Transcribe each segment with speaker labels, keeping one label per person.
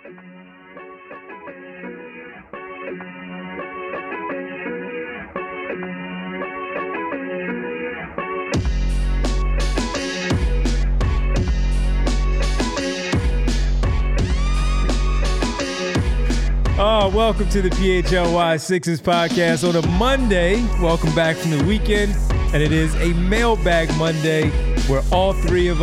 Speaker 1: Oh, welcome to the PHLY Sixers podcast on a Monday. Welcome back from the weekend. And it is a mailbag Monday where all four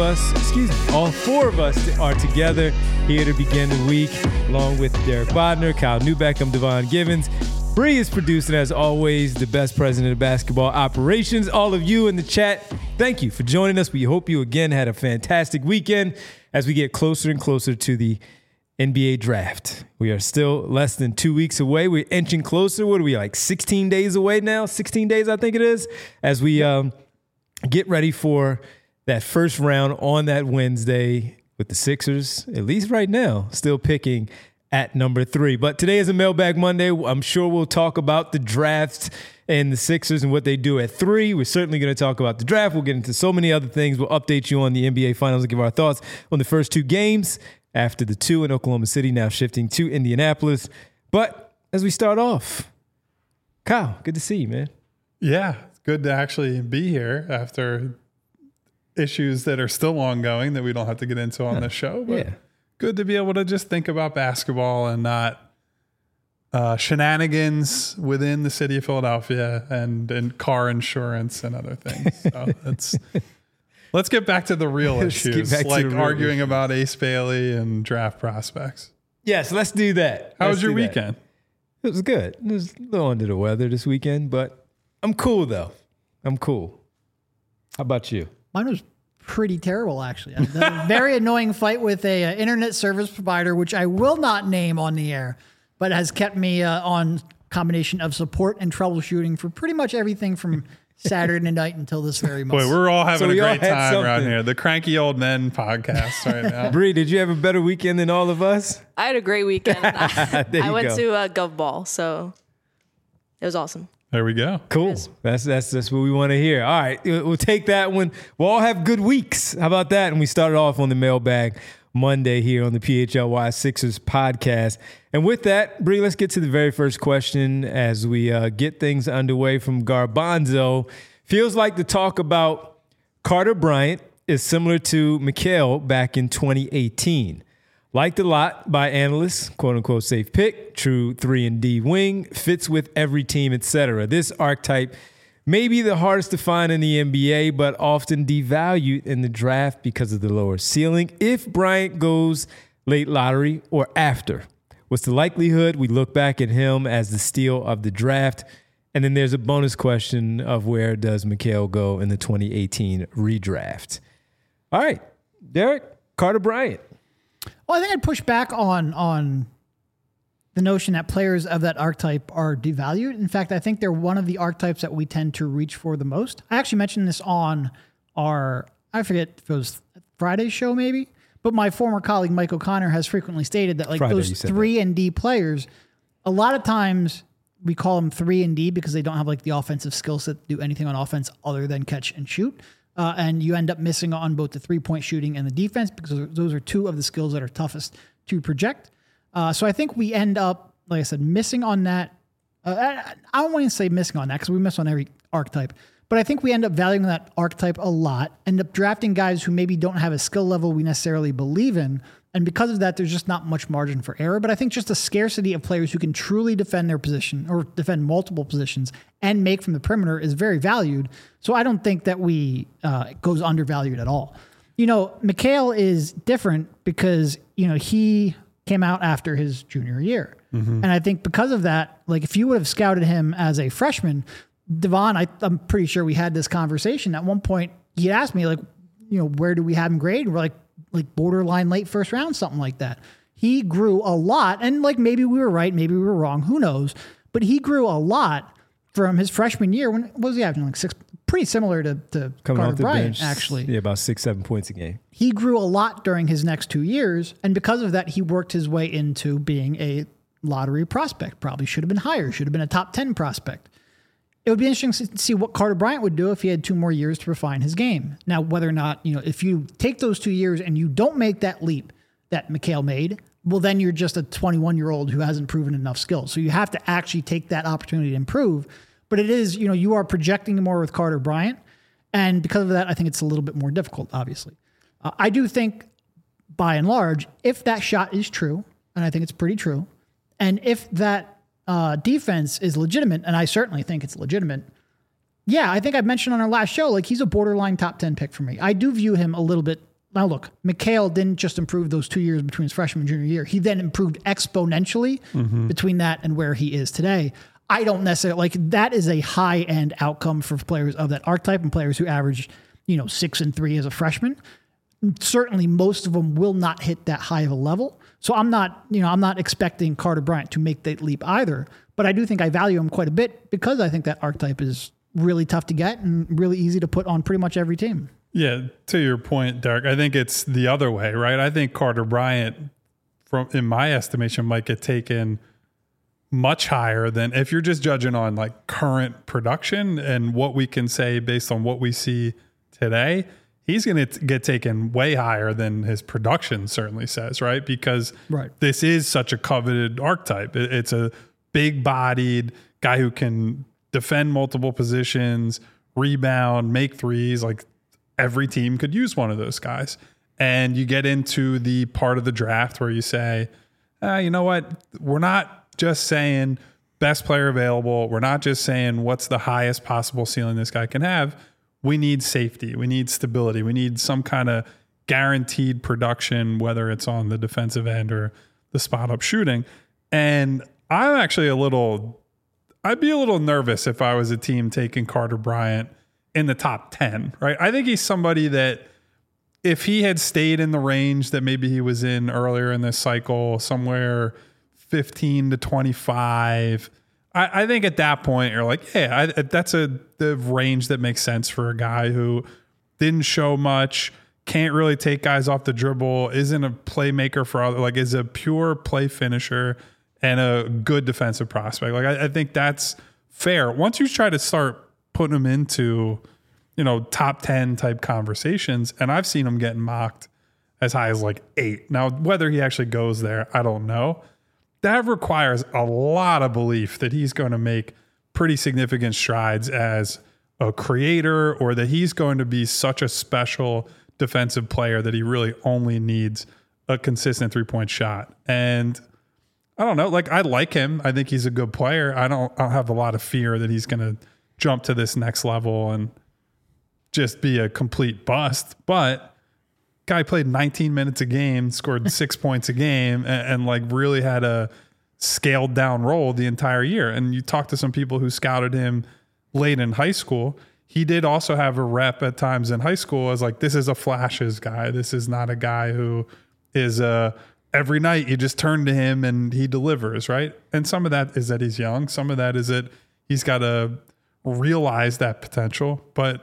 Speaker 1: of us are together here to begin the week, along with Derek Bodner, Kyle Newbeck, I'm Devon Givens. Bree is producing, as always, the best president of basketball operations. All of you in the chat, thank you for joining us. We hope you again had a fantastic weekend as we get closer and closer to the NBA draft. We are still less than 2 weeks away. We're inching closer. What are we, like 16 days away now? 16 days, I think it is, as we get ready for that first round on that Wednesday with the Sixers, at least right now, still picking at number 3. But today is a Mailbag Monday. I'm sure we'll talk about the draft and the Sixers and what they do at 3. We're certainly going to talk about the draft. We'll get into so many other things. We'll update you on the NBA Finals and give our thoughts on the first 2 games after the 2 in Oklahoma City, now shifting to Indianapolis. But as we start off, Kyle, good to see you, man.
Speaker 2: Yeah, it's good to actually be here after issues that are still ongoing that we don't have to get into on this show. But yeah, good to be able to just think about basketball and not shenanigans within the city of Philadelphia and car insurance and other things. So let's get back to the real issues, like arguing about Ace Bailey and draft prospects.
Speaker 1: Yes, let's do that.
Speaker 2: How was your weekend?
Speaker 1: It was good. It was a little under the weather this weekend, but I'm cool, though. I'm cool. How about you?
Speaker 3: Mine was pretty terrible, actually. I had a very annoying fight with a internet service provider, which I will not name on the air, but has kept me on combination of support and troubleshooting for pretty much everything from Saturday night until this very moment.
Speaker 2: Boy, we're all having a great time around here. The Cranky Old Men podcast right now.
Speaker 1: Bree, did you have a better weekend than all of us?
Speaker 4: I had a great weekend. I went to Gov Ball, so it was awesome.
Speaker 2: There we go.
Speaker 1: Cool. That's what we want to hear. All right, we'll take that one. We'll all have good weeks. How about that? And we started off on the Mailbag Monday here on the PHLY Sixers podcast. And with that, Bree, let's get to the very first question as we get things underway from Garbanzo. Feels like the talk about Carter Bryant is similar to Mikal back in 2018. Liked a lot by analysts, quote-unquote safe pick, true 3-and-D wing, fits with every team, etc. This archetype may be the hardest to find in the NBA, but often devalued in the draft because of the lower ceiling. If Bryant goes late lottery or after, what's the likelihood we look back at him as the steal of the draft? And then there's a bonus question of where does Mikal go in the 2018 redraft? All right, Derek, Carter Bryant.
Speaker 3: Well, I think I'd push back on the notion that players of that archetype are devalued. In fact, I think they're one of the archetypes that we tend to reach for the most. I actually mentioned this on our, I forget if it was Friday's show maybe, but my former colleague Mike O'Connor has frequently stated that those 3-and-D players, a lot of times we call them 3-and-D because they don't have like the offensive skill set to do anything on offense other than catch and shoot. And you end up missing on both the 3-point shooting and the defense because those are 2 of the skills that are toughest to project. So I think we end up, like I said, missing on that. I don't want to say missing on that because we miss on every archetype. But I think we end up valuing that archetype a lot, end up drafting guys who maybe don't have a skill level we necessarily believe in. And because of that, there's just not much margin for error. But I think just a scarcity of players who can truly defend their position or defend multiple positions and make from the perimeter is very valued. So I don't think that it goes undervalued at all. Mikal is different because, he came out after his junior year. Mm-hmm. And I think because of that, like if you would have scouted him as a freshman, Devon, I'm pretty sure we had this conversation. At one point, he asked me, where do we have him graded? We're like borderline late first round, something like that. He grew a lot. And maybe we were right, maybe we were wrong, who knows? But he grew a lot from his freshman year. When what was he averaging? Like 6, pretty similar to Carter Bryant, actually.
Speaker 1: Yeah, about 6-7 points a game. He
Speaker 3: grew a lot during his next 2 years. And because of that, he worked his way into being a lottery prospect. Probably should have been higher, should have been a top 10 prospect. It would be interesting to see what Carter Bryant would do if he had 2 more years to refine his game. Now, whether or not, if you take those 2 years and you don't make that leap that Mikal made, well, then you're just a 21-year-old who hasn't proven enough skills. So you have to actually take that opportunity to improve. But it is, you are projecting more with Carter Bryant. And because of that, I think it's a little bit more difficult, obviously. I do think, by and large, if that shot is true, and I think it's pretty true, and if that defense is legitimate, and I certainly think it's legitimate, yeah, I think I mentioned on our last show, like he's a borderline top 10 pick for me. I do view him a little bit. Now, look, Mikal didn't just improve those 2 years between his freshman and junior year. He then improved exponentially between that and where he is today. I don't necessarily like that is a high end outcome for players of that archetype and players who average, 6 and 3 as a freshman. Certainly most of them will not hit that high of a level. So I'm not expecting Carter Bryant to make that leap either, but I do think I value him quite a bit because I think that archetype is really tough to get and really easy to put on pretty much every team.
Speaker 2: Yeah. To your point, Derek, I think it's the other way, right? I think Carter Bryant, in my estimation, might get taken much higher than if you're just judging on like current production and what we can say based on what we see today. He's going to get taken way higher than his production certainly says, right? Because this is such a coveted archetype. It's a big-bodied guy who can defend multiple positions, rebound, make threes. Like every team could use one of those guys. And you get into the part of the draft where you say, you know what? We're not just saying best player available. We're not just saying what's the highest possible ceiling this guy can have. We need safety. We need stability. We need some kind of guaranteed production, whether it's on the defensive end or the spot up shooting. And I'm actually I'd be a little nervous if I was a team taking Carter Bryant in the top 10, right? I think he's somebody that if he had stayed in the range that maybe he was in earlier in this cycle, somewhere 15 to 25, I think at that point you're like, yeah, that's the range that makes sense for a guy who didn't show much, can't really take guys off the dribble, isn't a playmaker for other, like is a pure play finisher and a good defensive prospect. Like I think that's fair. Once you try to start putting him into, top 10 type conversations, and I've seen him getting mocked as high as like 8. Now, whether he actually goes there, I don't know. That requires a lot of belief that he's going to make pretty significant strides as a creator, or that he's going to be such a special defensive player that he really only needs a consistent 3-point shot. And I don't know, like I like him. I think he's a good player. I don't have a lot of fear that he's going to jump to this next level and just be a complete bust. But guy played 19 minutes a game, scored 6 points a game, and like really had a scaled down role the entire year. And you talk to some people who scouted him late in high school. He did also have a rep at times in high school as like, this is a flashes guy. This is not a guy who is every night you just turn to him and he delivers, right? And some of that is that he's young. Some of that is that he's got to realize that potential. But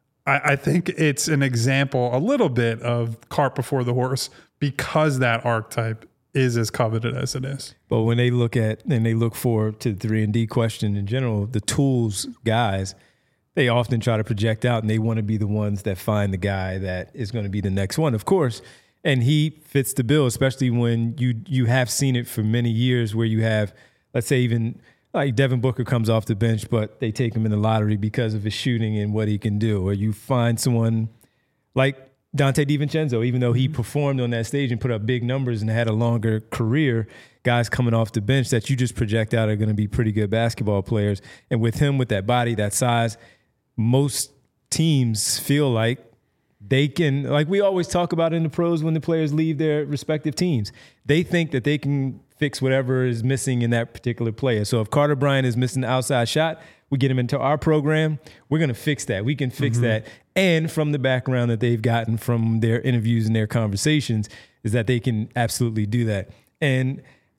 Speaker 2: I think it's an example a little bit of cart before the horse because that archetype is as coveted as it is.
Speaker 1: But when they look at and they look forward to the 3-and-D question in general, the tools guys, they often try to project out and they want to be the ones that find the guy that is going to be the next one, of course. And he fits the bill, especially when you have seen it for many years where you have, let's say even like Devin Booker comes off the bench, but they take him in the lottery because of his shooting and what he can do. Or you find someone like Dante DiVincenzo, even though he performed on that stage and put up big numbers and had a longer career, guys coming off the bench that you just project out are going to be pretty good basketball players. And with him, with that body, that size, most teams feel like they can, like we always talk about in the pros when the players leave their respective teams, they think that they can fix whatever is missing in that particular player. So if Carter Bryant is missing the outside shot, we get him into our program, we're going to fix that. We can fix that. And from the background that they've gotten from their interviews and their conversations is that they can absolutely do that. And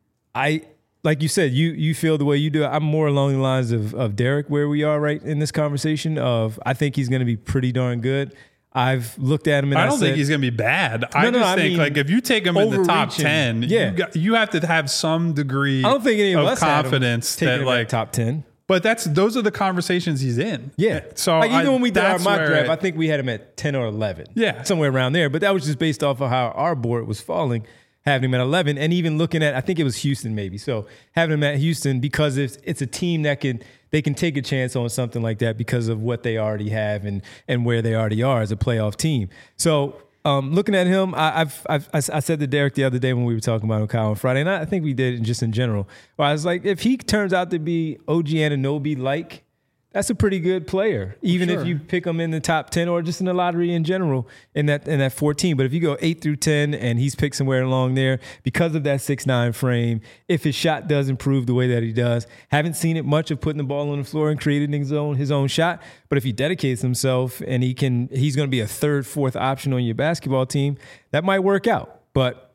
Speaker 1: I, like you said, you feel the way you do. I'm more along the lines of Derek, where we are right in this conversation of, I think he's going to be pretty darn good. I've looked at him and
Speaker 2: I don't think he's going to be bad. I think like if you take him in the top 10, you have to have some degree of confidence
Speaker 1: that like top 10.
Speaker 2: But those are the conversations he's in.
Speaker 1: Yeah.
Speaker 2: So
Speaker 1: like even when we did our mock draft, I think we had him at 10 or 11.
Speaker 2: Yeah.
Speaker 1: Somewhere around there. But that was just based off of how our board was falling. having him at 11, and even looking at, I think it was Houston maybe. So having him at Houston because it's a team that they can take a chance on something like that because of what they already have and where they already are as a playoff team. So looking at him, I said to Derek the other day when we were talking about him, Kyle, on Friday, and I think we did just in general. Where I was like, if he turns out to be OG Anunoby-like, that's a pretty good player, even if you pick him in the top 10 or just in the lottery in general in that 14. But if you go 8 through 10 and he's picked somewhere along there because of that 6'9" frame, if his shot does improve the way that he does, haven't seen it much of putting the ball on the floor and creating his own shot. But if he dedicates himself and he's going to be a third, fourth option on your basketball team, that might work out. But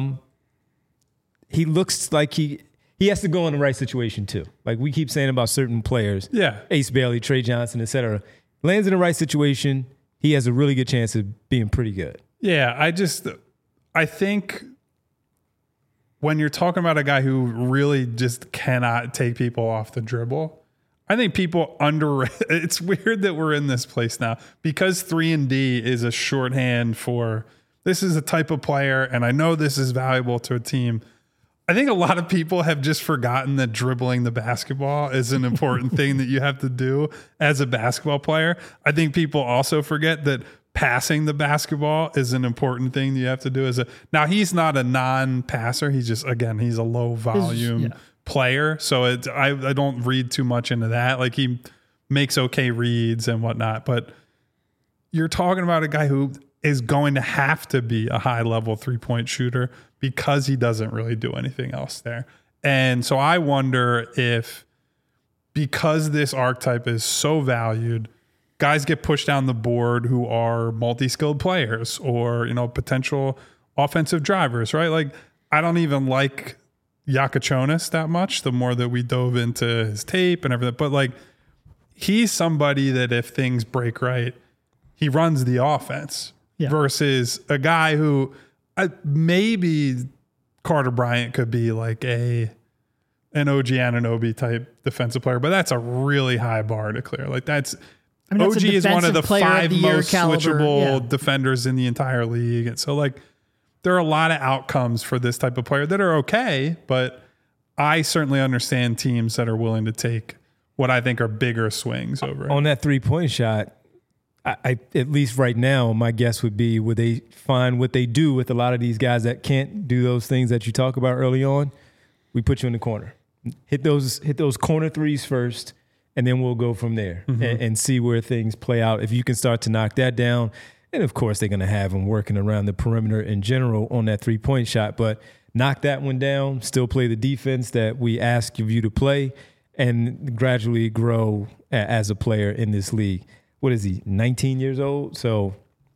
Speaker 1: he looks like he has to go in the right situation too. Like we keep saying about certain players, Ace Bailey, Trey Johnson, et cetera. Lands in the right situation, he has a really good chance of being pretty good.
Speaker 2: Yeah, I think when you're talking about a guy who really just cannot take people off the dribble, I think people underrate. It's weird that we're in this place now because 3-and-D is a shorthand for this is a type of player, and I know this is valuable to a team. I think a lot of people have just forgotten that dribbling the basketball is an important thing that you have to do as a basketball player. I think people also forget that passing the basketball is an important thing that you have to do now he's not a non-passer. He's just, again, he's a low volume player. So I don't read too much into that. Like he makes okay reads and whatnot, but you're talking about a guy who is going to have to be a high level 3-point shooter because he doesn't really do anything else there. And so I wonder if, because this archetype is so valued, guys get pushed down the board who are multi-skilled players or, potential offensive drivers, right? Like I don't even like Yakachonis that much, the more that we dove into his tape and everything. But like he's somebody that if things break right, he runs the offense versus a guy who maybe Carter Bryant could be like an OG Anunoby type defensive player, but that's a really high bar to clear. Like OG is one of the 5 most switchable defenders in the entire league. And so like there are a lot of outcomes for this type of player that are okay, but I certainly understand teams that are willing to take what I think are bigger swings over it.
Speaker 1: On that 3-point shot, I at least right now, my guess would be, would they find what they do with a lot of these guys that can't do those things that you talk about early on? We put you in the corner. Hit those corner threes first, and then we'll go from there and see where things play out. If you can start to knock that down, and of course they're going to have them working around the perimeter in general on that 3-point shot, but knock that one down, still play the defense that we ask of you to play, and gradually grow as a player in this league. What is he, 19 years old? So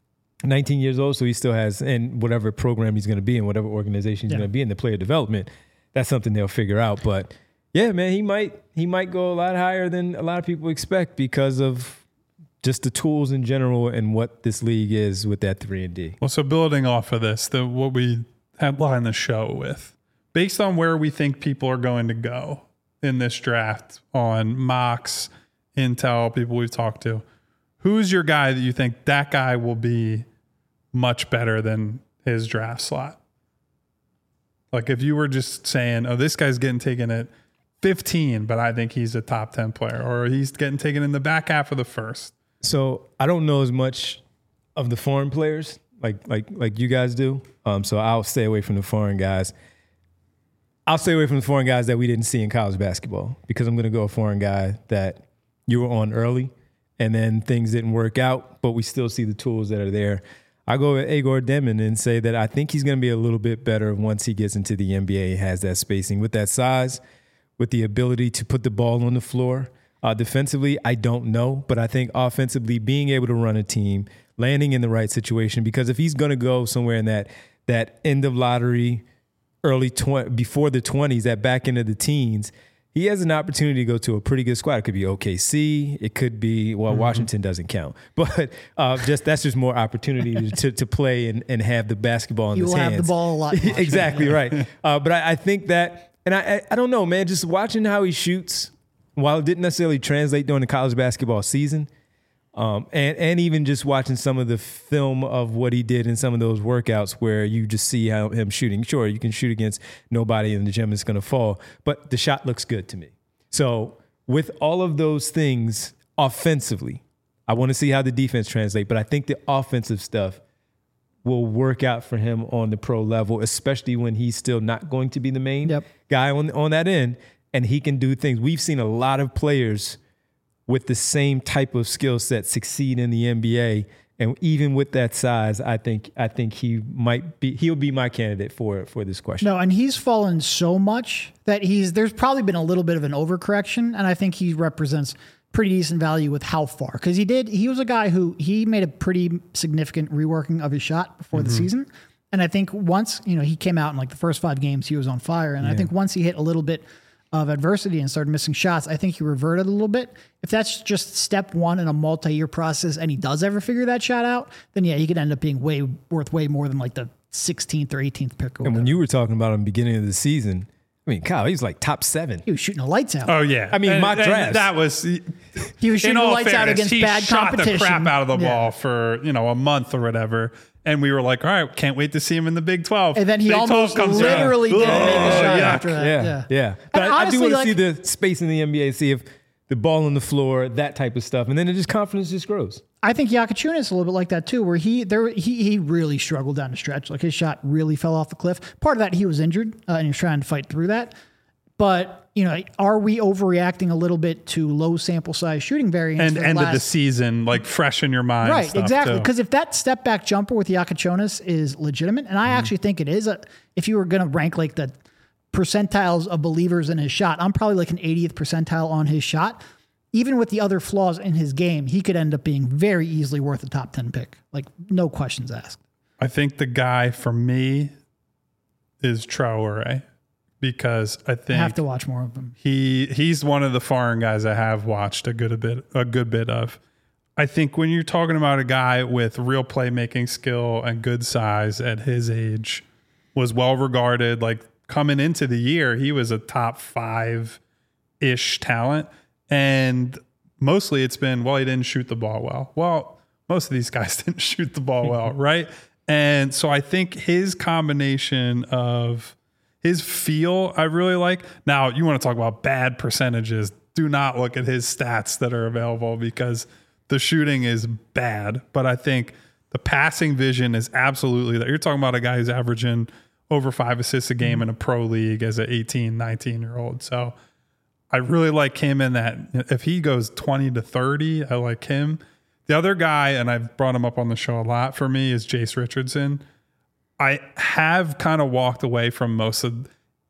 Speaker 1: 19 years old, so he still has, in whatever program he's going to be in, whatever organization he's going to be in, the player development, that's something they'll figure out. But yeah, man, he might go a lot higher than a lot of people expect because of just the tools in general and what this league is with that 3-and-D.
Speaker 2: Well, so building off of this, what we headline the show with, based on where we think people are going to go in this draft on mocks, intel, people we've talked to, who's your guy that you think that guy will be much better than his draft slot? Like if you were just saying, oh, this guy's getting taken at 15, but I think he's a top 10 player, or he's getting taken in the back half of the first.
Speaker 1: So I don't know as much of the foreign players like you guys do. So I'll stay away from the foreign guys. I'll stay away from the foreign guys that we didn't see in college basketball because I'm going to go a foreign guy that you were on early and then things didn't work out, but we still see the tools that are there. I go with Igor Demon and say that I think he's going to be a little bit better once he gets into the NBA, has that spacing, with that size, with the ability to put the ball on the floor. Defensively, I don't know, but I think offensively, being able to run a team, landing in the right situation, because if he's going to go somewhere in that end of lottery, before the 20s, that back end of the teens, he has an opportunity to go to a pretty good squad. It could be OKC. It could be, Washington doesn't count. But that's just more opportunity to play and have the basketball in his hands.
Speaker 3: You will have the ball a lot.
Speaker 1: Exactly, right. But I think that, and I don't know, man, just watching how he shoots, while it didn't necessarily translate during the college basketball season, And even just watching some of the film of what he did in some of those workouts where you just see how him shooting. Sure, you can shoot against nobody in the gym is going to fall, but the shot looks good to me. So with all of those things offensively, I want to see how the defense translate, but I think the offensive stuff will work out for him on the pro level, especially when he's still not going to be the main guy on that end, and he can do things. We've seen a lot of players with the same type of skill set succeed in the NBA, and even with that size, I think he'll be my candidate for this question.
Speaker 3: No, and he's fallen so much that there's probably been a little bit of an overcorrection, and I think he represents pretty decent value with how far, because he was a guy who he made a pretty significant reworking of his shot before the season, and I think once he came out in like the first 5 games he was on fire, and I think once he hit a little bit of adversity and started missing shots, I think he reverted a little bit. If that's just step one in a multi-year process and he does ever figure that shot out, then he could end up being worth way more than like the 16th or 18th pick.
Speaker 1: And when you were talking about him beginning of the season, I mean, Kyle, he was like top 7.
Speaker 3: He was shooting the lights out.
Speaker 2: Oh, yeah.
Speaker 1: I mean, mock drafts.
Speaker 2: That was...
Speaker 3: He was shooting the lights out against bad competition.
Speaker 2: He shot the crap out of the ball for, a month or whatever. And we were like, all right, can't wait to see him in the Big 12.
Speaker 3: And then he almost literally didn't make a shot after that.
Speaker 1: Yeah. But I do want to see the space in the NBA, see if the ball on the floor, that type of stuff. And then confidence just grows.
Speaker 3: I think Jakic is a little bit like that too, where he really struggled down the stretch. Like his shot really fell off the cliff. Part of that, he was injured and he was trying to fight through that. But, are we overreacting a little bit to low sample size shooting variance?
Speaker 2: And end of the season, like fresh in your mind.
Speaker 3: Right, exactly. Because if that step back jumper with Jakic is legitimate, and I actually think it is, if you were going to rank like the percentiles of believers in his shot, I'm probably like an 80th percentile on his shot. Even with the other flaws in his game, he could end up being very easily worth a top 10 pick. Like, no questions asked.
Speaker 2: I think the guy for me is Traore. Because I think
Speaker 3: I have to watch more of him.
Speaker 2: He's one of the foreign guys I have watched a good bit of. I think when you're talking about a guy with real playmaking skill and good size at his age, was well regarded. Like coming into the year, he was a top 5-ish talent, and mostly it's been he didn't shoot the ball well. Well, most of these guys didn't shoot the ball well, right? And so I think his combination of his feel, I really like. Now, you want to talk about bad percentages. Do not look at his stats that are available because the shooting is bad. But I think the passing vision is absolutely that. You're talking about a guy who's averaging over 5 assists a game in a pro league as an 18, 19-year-old. So I really like him in that. If he goes 20 to 30, I like him. The other guy, and I've brought him up on the show a lot for me, is Jace Richardson. I have kind of walked away from most of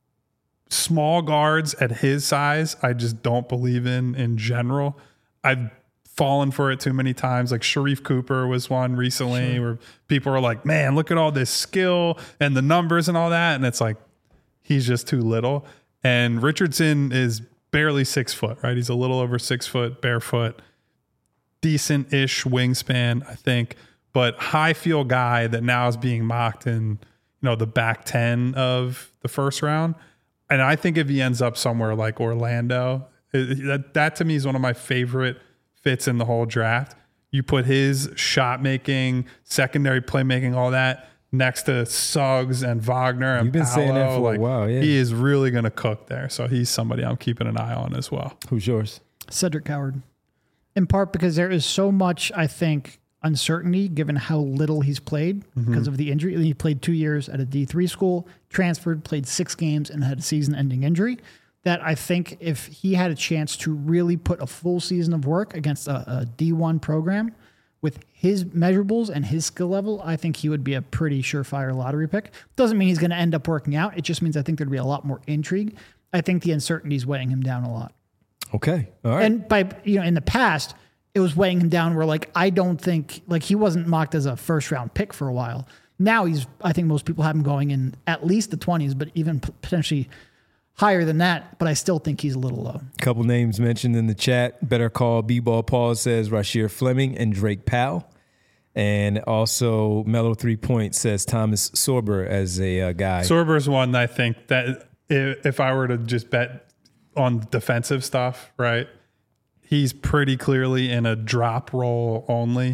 Speaker 2: small guards at his size. I just don't believe in general. I've fallen for it too many times. Like Sharif Cooper was one recently where people are like, man, look at all this skill and the numbers and all that. And it's like, he's just too little. And Richardson is barely 6 foot, right? He's a little over 6 foot, barefoot, decent-ish wingspan, I think. But high field guy that now is being mocked in, the back 10 of the first round. And I think if he ends up somewhere like Orlando, that to me is one of my favorite fits in the whole draft. You put his shot making, secondary playmaking, all that next to Suggs and Wagner and
Speaker 1: You've been
Speaker 2: Paolo,
Speaker 1: saying that for a while, yeah.
Speaker 2: He is really going to cook there. So he's somebody I'm keeping an eye on as well.
Speaker 1: Who's yours?
Speaker 3: Cedric Howard. In part because there is so much, I think, uncertainty given how little he's played because of the injury. He played 2 years at a D3 school, transferred, played 6 games, and had a season-ending injury. That I think if he had a chance to really put a full season of work against a D1 program with his measurables and his skill level, I think he would be a pretty surefire lottery pick. Doesn't mean he's going to end up working out. It just means I think there'd be a lot more intrigue. I think the uncertainty is weighing him down a lot.
Speaker 1: Okay. All right.
Speaker 3: And by, in the past, it was weighing him down where I don't think he wasn't mocked as a first round pick for a while. Now I think most people have him going in at least the 20s, but even potentially higher than that. But I still think he's a little low.
Speaker 1: A couple names mentioned in the chat. Better Call B-Ball Paul says Rasheer Fleming and Drake Powell. And also Mellow 3 Point says Thomas Sorber as a guy.
Speaker 2: Sorber's one I think that if I were to just bet on defensive stuff, right? he's pretty clearly in a drop role only,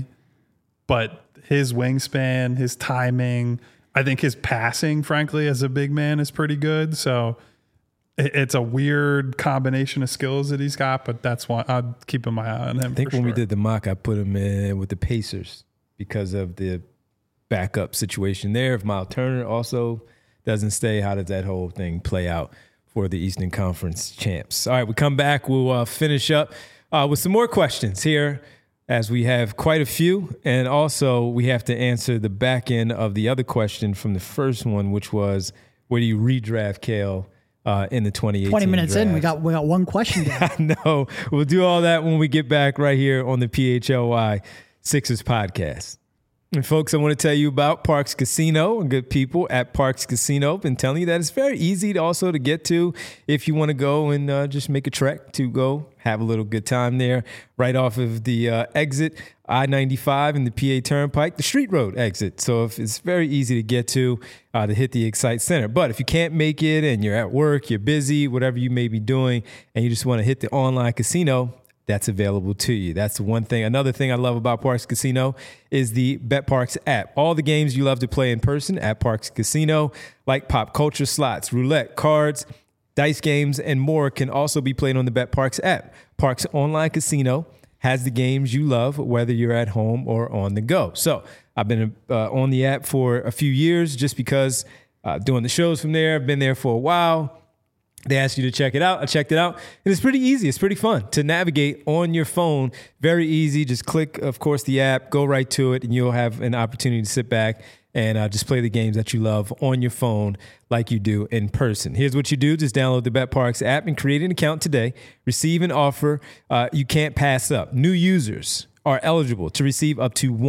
Speaker 2: but his wingspan, his timing, I think his passing, frankly, as a big man is pretty good. So it's a weird combination of skills that he's got, but that's why I'm keeping my eye on him.
Speaker 1: I think when we did the mock, I put him in with the Pacers because of the backup situation there. If Miles Turner also doesn't stay, how does that whole thing play out for the Eastern Conference champs? All right, we come back. We'll finish up with some more questions here, as we have quite a few. And also, we have to answer the back end of the other question from the first one, which was, where do you redraft Cale in the 2018
Speaker 3: 20 minutes
Speaker 1: draft?
Speaker 3: in, we got one question down.
Speaker 1: I know. We'll do all that when we get back right here on the PHLY Sixers podcast. And folks, I want to tell you about Parx Casino and good people at Parx Casino. Been telling you that it's very easy to get to if you want to go and just make a trek to go have a little good time there, right off of the exit I-95 and the PA Turnpike, the Street Road exit. So if it's very easy to get to hit the Excite Center. But if you can't make it and you're at work, you're busy, whatever you may be doing, and you just want to hit the online casino, that's available to you. That's one thing. Another thing I love about Parx Casino is the BetParx app. All the games you love to play in person at Parx Casino, like pop culture slots, roulette, cards, dice games, and more, can also be played on the BetParx app. Parx Online Casino has the games you love, whether you're at home or on the go. So I've been on the app for a few years just because doing the shows from there. I've been there for a while. They asked you to check it out. I checked it out, and it's pretty easy. It's pretty fun to navigate on your phone. Very easy. Just click, of course, the app, go right to it, and you'll have an opportunity to sit back and just play the games that you love on your phone like you do in person. Here's what you do. Just download the BetParx app and create an account today. Receive an offer you can't pass up. New users are eligible to receive up to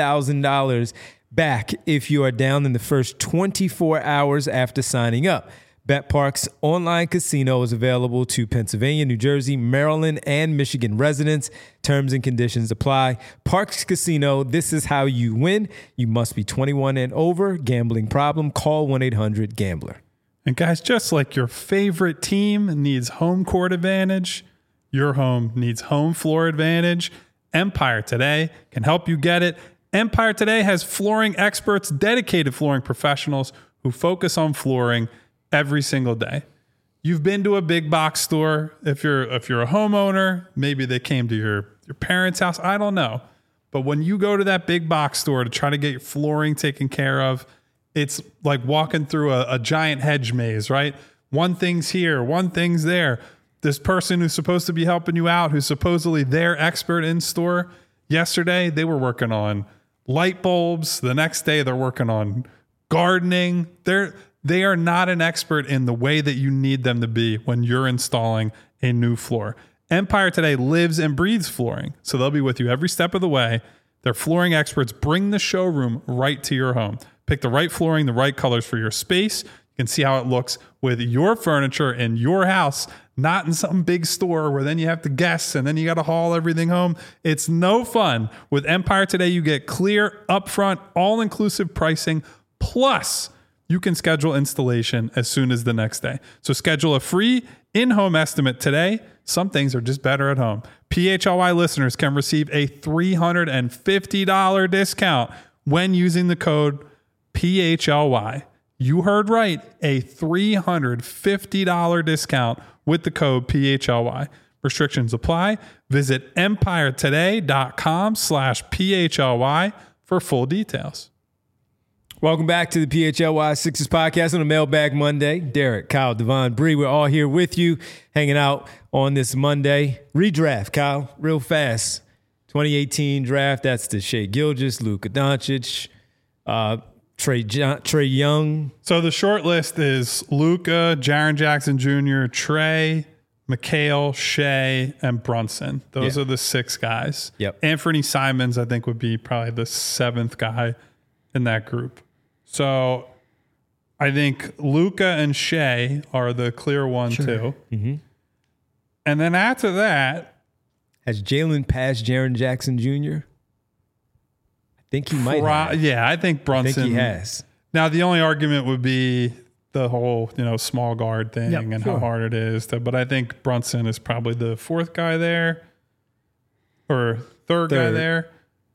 Speaker 1: $1,000 back if you are down in the first 24 hours after signing up. BetParx Online Casino is available to Pennsylvania, New Jersey, Maryland, and Michigan residents. Terms and conditions apply. Parx Casino, this is how you win. You must be 21 and over. Gambling problem? Call 1-800-GAMBLER.
Speaker 2: And guys, just like your favorite team needs home court advantage, your home needs home floor advantage. Empire Today can help you get it. Empire Today has flooring experts, dedicated flooring professionals who focus on flooring every single day. You've been to a big box store. If you're a homeowner, maybe they came to your parents' house. I don't know. But when you go to that big box store to try to get your flooring taken care of, it's like walking through a giant hedge maze, right? One thing's here, one thing's there. This person who's supposed to be helping you out, who's supposedly their expert in store, yesterday they were working on light bulbs. The next day they're working on gardening. They are not an expert in the way that you need them to be when you're installing a new floor. Empire Today lives and breathes flooring, so they'll be with you every step of the way. Their flooring experts bring the showroom right to your home. Pick the right flooring, the right colors for your space. You can see how it looks with your furniture in your house, not in some big store where then you have to guess and then you got to haul everything home. It's no fun. With Empire Today, you get clear, upfront, all-inclusive pricing, plus you can schedule installation as soon as the next day. So schedule a free in-home estimate today. Some things are just better at home. PHLY listeners can receive a $350 discount when using the code PHLY. You heard right, a $350 discount with the code PHLY. Restrictions apply. Visit empiretoday.com/PHLY for full details.
Speaker 1: Welcome back to the PHLY Sixers podcast on a Mailbag Monday. Derek, Kyle, Devon, Bree, we're all here with you, hanging out on this Monday. Redraft, Kyle, real fast. 2018 draft, that's the Shai Gilgeous, Luka Doncic, Trae Young.
Speaker 2: So the short list is Luka, Jaren Jackson Jr., Trae, Mikal, Shai, and Brunson. Those are the 6 guys.
Speaker 1: Yep.
Speaker 2: Anthony Simons, I think, would be probably the 7th guy in that group. So I think Luka and Shai are the clear one, too. Mm-hmm. And then after that,
Speaker 1: has Jalen passed Jaren Jackson Jr.? I think he might have.
Speaker 2: Yeah, I think Brunson.
Speaker 1: I think he has.
Speaker 2: Now, the only argument would be the whole, small guard thing and how hard it is. But I think Brunson is probably the 4th guy there. or third guy there.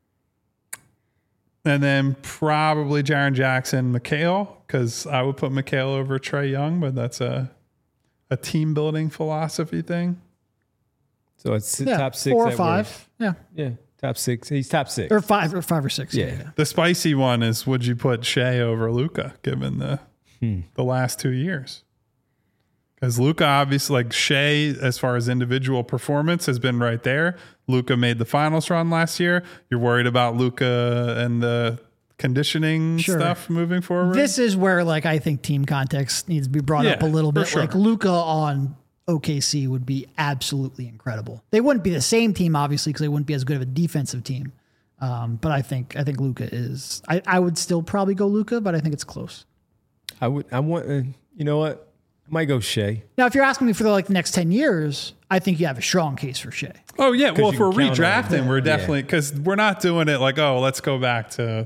Speaker 2: And then probably Jaren Jackson, Mikal, because I would put Mikal over Trae Young, but that's a team building philosophy thing.
Speaker 1: So it's top 6,
Speaker 3: 4 or 5.
Speaker 1: Yeah, top 6. He's top 6
Speaker 3: or 5 or 6. Yeah.
Speaker 2: The spicy one is: would you put Shea over Luka, given the last 2 years? Because Luka, obviously, like Shea, as far as individual performance, has been right there. Luka made the finals run last year. You're worried about Luka and the conditioning stuff moving forward?
Speaker 3: This is where, like, I think team context needs to be brought up a little bit. Sure. Like, Luka on OKC would be absolutely incredible. They wouldn't be the same team, obviously, because they wouldn't be as good of a defensive team. But I think Luka is. I would still probably go Luka, but I think it's close.
Speaker 1: You know what? I might go Shea.
Speaker 3: Now, if you're asking me for the next 10 years, I think you have a strong case for Shea.
Speaker 2: Oh, yeah. Well, if we're redrafting, we're definitely, because we're not doing it like, oh, let's go back to,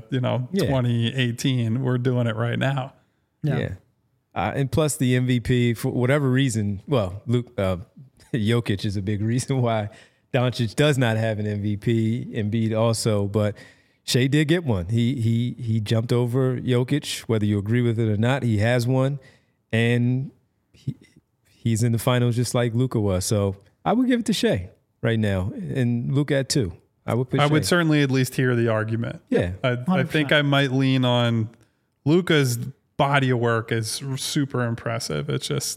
Speaker 2: 2018. We're doing it right now.
Speaker 1: Yeah. And plus the MVP, for whatever reason, Jokic is a big reason why Doncic does not have an MVP, Embiid also, but Shea did get one. He jumped over Jokic, whether you agree with it or not. He has one, and he's in the finals just like Luka was. So I would give it to Shea right now, and Luka at 2. I would
Speaker 2: certainly at least hear the argument.
Speaker 1: Yeah,
Speaker 2: I think I might lean on Luka's body of work is super impressive. It's just,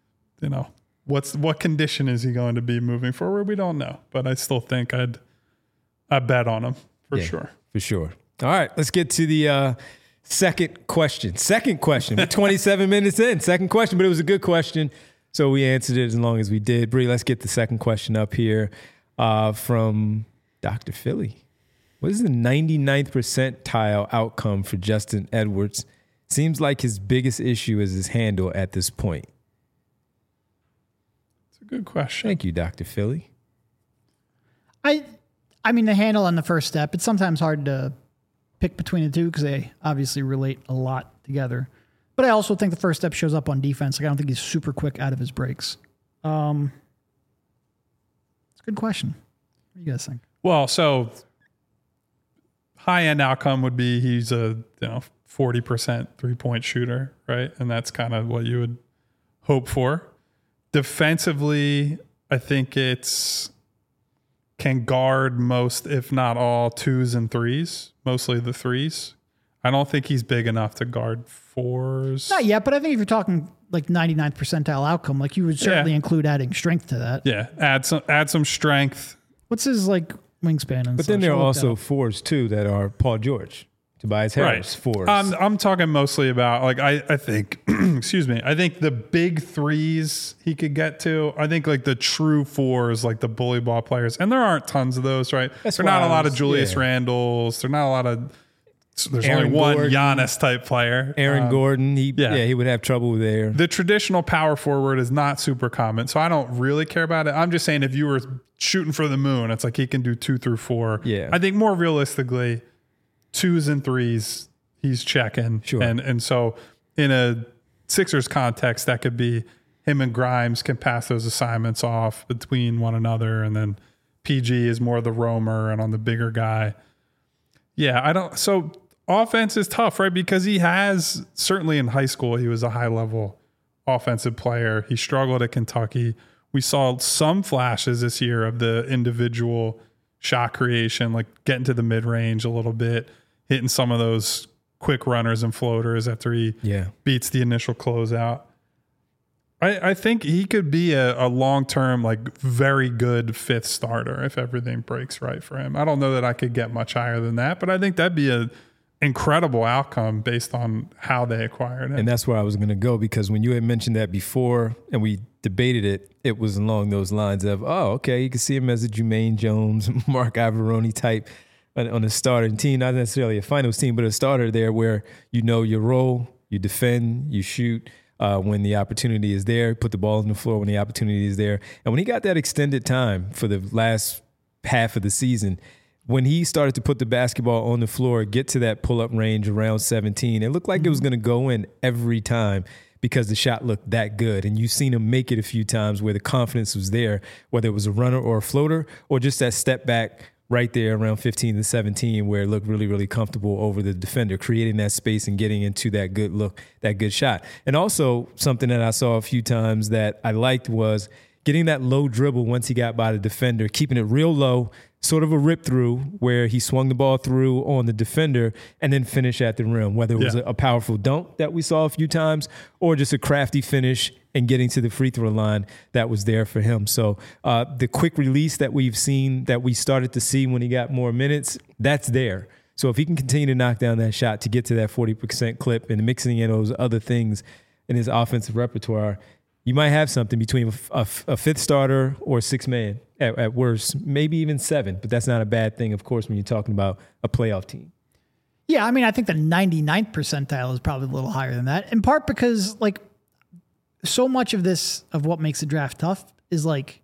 Speaker 2: what condition is he going to be moving forward? We don't know, but I still think I'd bet on him for sure.
Speaker 1: For sure. All right, let's get to the second question. We're 27 minutes in. Second question, but it was a good question, so we answered it as long as we did. Bree, let's get the second question up here from Dr. Philly. What is the 99th percentile outcome for Justin Edwards? Seems like his biggest issue is his handle at this point.
Speaker 2: It's a good question.
Speaker 1: Thank you, Dr. Philly.
Speaker 3: I mean, the handle on the first step, it's sometimes hard to pick between the two because they obviously relate a lot together. But I also think the first step shows up on defense. Like, I don't think he's super quick out of his breaks. It's a good question. What do you guys think?
Speaker 2: Well, so high-end outcome would be he's a 40% three-point shooter, right? And that's kind of what you would hope for. Defensively, I think it's can guard most, if not all, 2s and 3s, mostly the 3s. I don't think he's big enough to guard 4s.
Speaker 3: Not yet, but I think if you're talking like 99th percentile outcome, like you would certainly include adding strength to that.
Speaker 2: Yeah, add some strength.
Speaker 3: What's his wingspan? And
Speaker 1: but then there are also 4s too that are Paul George, Tobias Harris, 4s.
Speaker 2: I'm talking mostly about I think excuse me. I think the big 3s he could get to. I think like the true 4s, like the bully ball players, and there aren't tons of those, right? There's not a lot of Julius Randles. There's not a lot of. There's Aaron only one Gordon, Giannis type player.
Speaker 1: Aaron Gordon, he would have trouble there.
Speaker 2: The traditional power forward is not super common, so I don't really care about it. I'm just saying if you were shooting for the moon, it's like he can do 2 through 4.
Speaker 1: Yeah.
Speaker 2: I think more realistically, 2s and 3s, he's checking.
Speaker 1: Sure.
Speaker 2: And so in a Sixers context, that could be him and Grimes can pass those assignments off between one another, and then PG is more the roamer and on the bigger guy. Yeah, so offense is tough, right? Because he has, certainly in high school, he was a high-level offensive player. He struggled at Kentucky. We saw some flashes this year of the individual shot creation, like getting to the mid-range a little bit, hitting some of those quick runners and floaters after he beats the initial closeout. I think he could be a long-term, like very good 5th starter if everything breaks right for him. I don't know that I could get much higher than that, but I think that'd be an incredible outcome based on how they acquired him.
Speaker 1: And that's where I was going to go, because when you had mentioned that before and we debated it, it was along those lines of, oh, okay, you can see him as a Jermaine Jones, Mark Ivoroni type on a starting team, not necessarily a finals team, but a starter there where you know your role, you defend, you shoot when the opportunity is there, put the ball on the floor when the opportunity is there. And when he got that extended time for the last half of the season, when he started to put the basketball on the floor, get to that pull-up range around 17, it looked like it was going to go in every time. because the shot looked that good. And you've seen him make it a few times where the confidence was there, whether it was a runner or a floater or just that step back right there around 15 to 17 where it looked really, really comfortable over the defender, creating that space and getting into that good look, that good shot. And also something that I saw a few times that I liked was getting that low dribble once he got by the defender, keeping it real low, sort of a rip through where he swung the ball through on the defender and then finish at the rim, whether it was a powerful dunk that we saw a few times or just a crafty finish and getting to the free throw line that was there for him. So the quick release that we've seen, that we started to see when he got more minutes, that's there. So if he can continue to knock down that shot to get to that 40% clip and mixing in those other things in his offensive repertoire, you might have something between a fifth starter or six man at worst, maybe even seven, but that's not a bad thing, of course, when you're talking about a playoff team.
Speaker 3: Yeah, I mean, I think the 99th percentile is probably a little higher than that, in part because, like, so much of this, of what makes the draft tough is, like,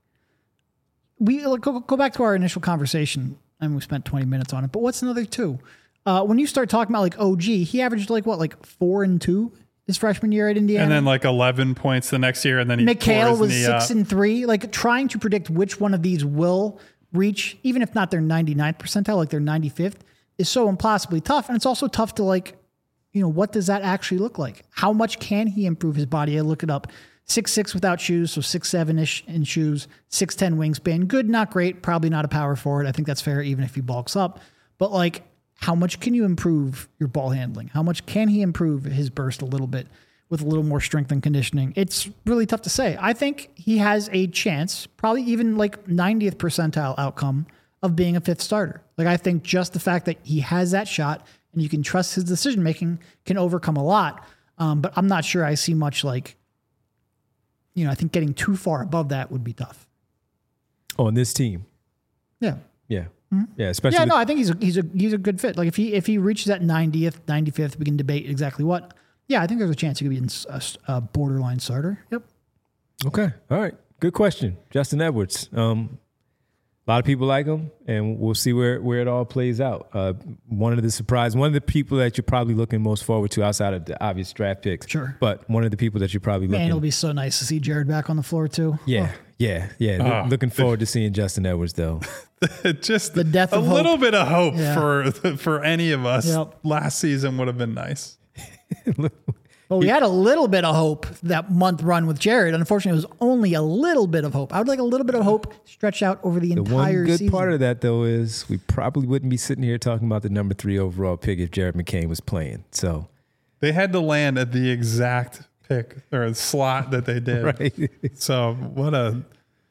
Speaker 3: we go back to our initial conversation, and we spent 20 minutes on it, but what's another two? When you start talking about, like, OG, he averaged, like, 4 and 2 his freshman year at Indiana.
Speaker 2: And then like 11 points the next year. And then
Speaker 3: McHale was 6 and 3. Like, trying to predict which one of these will reach, even if not their 99th percentile, like their 95th, is so impossibly tough. And it's also tough to, like, you know, what does that actually look like? How much can he improve his body? I look it up. 6'6" without shoes, so 6'7" in shoes, 6'10" wingspan. Good, not great. Probably not a power forward. I think that's fair, even if he bulks up. But, like, how much can you improve your ball handling? How much can he improve his burst a little bit with a little more strength and conditioning? It's really tough to say. I think he has a chance, probably even like 90th percentile outcome of being a fifth starter. Like, I think just the fact that he has that shot and you can trust his decision-making can overcome a lot. But I'm not sure I see much, like, you know, I think getting too far above that would be tough.
Speaker 1: On this team.
Speaker 3: Yeah.
Speaker 1: Yeah. Mm-hmm. Yeah, especially.
Speaker 3: Yeah, no, I think he's a good fit. Like, if he reaches that 90th, 95th, we can debate exactly what. Yeah, I think there's a chance he could be a borderline starter. Yep.
Speaker 1: Okay. All right. Good question, Justin Edwards. A lot of people like him, and we'll see where it all plays out. One of the people that you're probably looking most forward to outside of the obvious draft picks.
Speaker 3: Sure.
Speaker 1: But one of the people that you're probably looking.
Speaker 3: Man, it'll be so nice to see Jared back on the floor too.
Speaker 1: Yeah. Oh. Yeah. Looking forward to seeing Justin Edwards, though.
Speaker 2: Just
Speaker 3: the death of
Speaker 2: a little bit of hope
Speaker 3: for
Speaker 2: any of us. Yep. Last season would have been nice.
Speaker 3: Well, we had a little bit of hope that month run with Jared. Unfortunately, it was only a little bit of hope. I would like a little bit of hope stretched out over the entire season.
Speaker 1: The one good part of that, though, is we probably wouldn't be sitting here talking about the number 3 overall pick if Jared McCain was playing. So
Speaker 2: they had to land at the exact pick or slot that they did.
Speaker 1: Right.
Speaker 2: So what a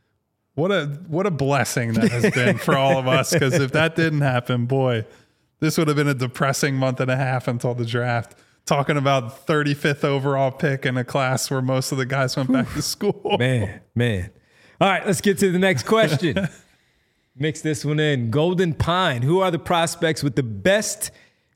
Speaker 2: blessing that has been for all of us. Because if that didn't happen, boy, this would have been a depressing month and a half until the draft. Talking about 35th overall pick in a class where most of the guys went back to school.
Speaker 1: Man. All right, let's get to the next question. Mix this one in. Golden Pine. Who are the prospects with the best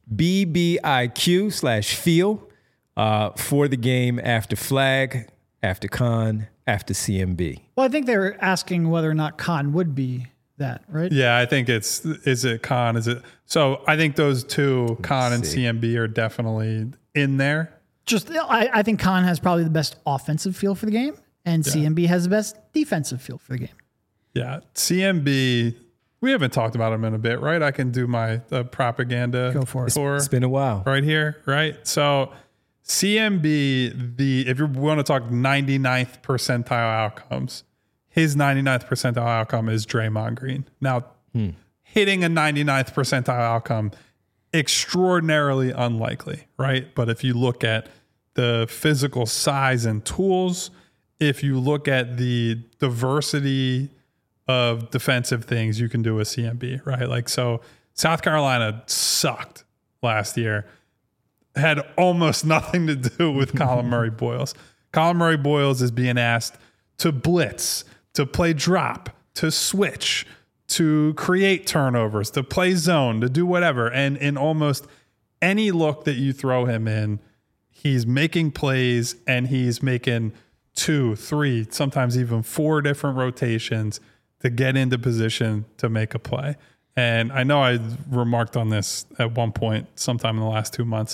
Speaker 1: BBIQ/feel for the game after flag, after con, after CMB?
Speaker 3: Well, I think they were asking whether or not con would be that, right?
Speaker 2: Yeah, I think is it con? Is it? So I think those two, con and CMB, are definitely in there.
Speaker 3: I think con has probably the best offensive feel for the game, and CMB has the best defensive feel for the game.
Speaker 2: Yeah, CMB, we haven't talked about him in a bit, right? I can do my propaganda.
Speaker 3: Go for it.
Speaker 1: It's been a while.
Speaker 2: Right here, right? So CMB, if you want to talk 99th percentile outcomes, his 99th percentile outcome is Draymond Green. Now, hitting a 99th percentile outcome, extraordinarily unlikely, right? But if you look at the physical size and tools, if you look at the diversity of defensive things you can do with CMB, right? Like, so South Carolina sucked last year, had almost nothing to do with Colin Murray-Boyles. Colin Murray-Boyles is being asked to blitz, to play drop, to switch, to create turnovers, to play zone, to do whatever. And in almost any look that you throw him in, he's making plays and he's making 2, 3, sometimes even 4 different rotations to get into position to make a play. And I know I remarked on this at one point sometime in the last 2 months.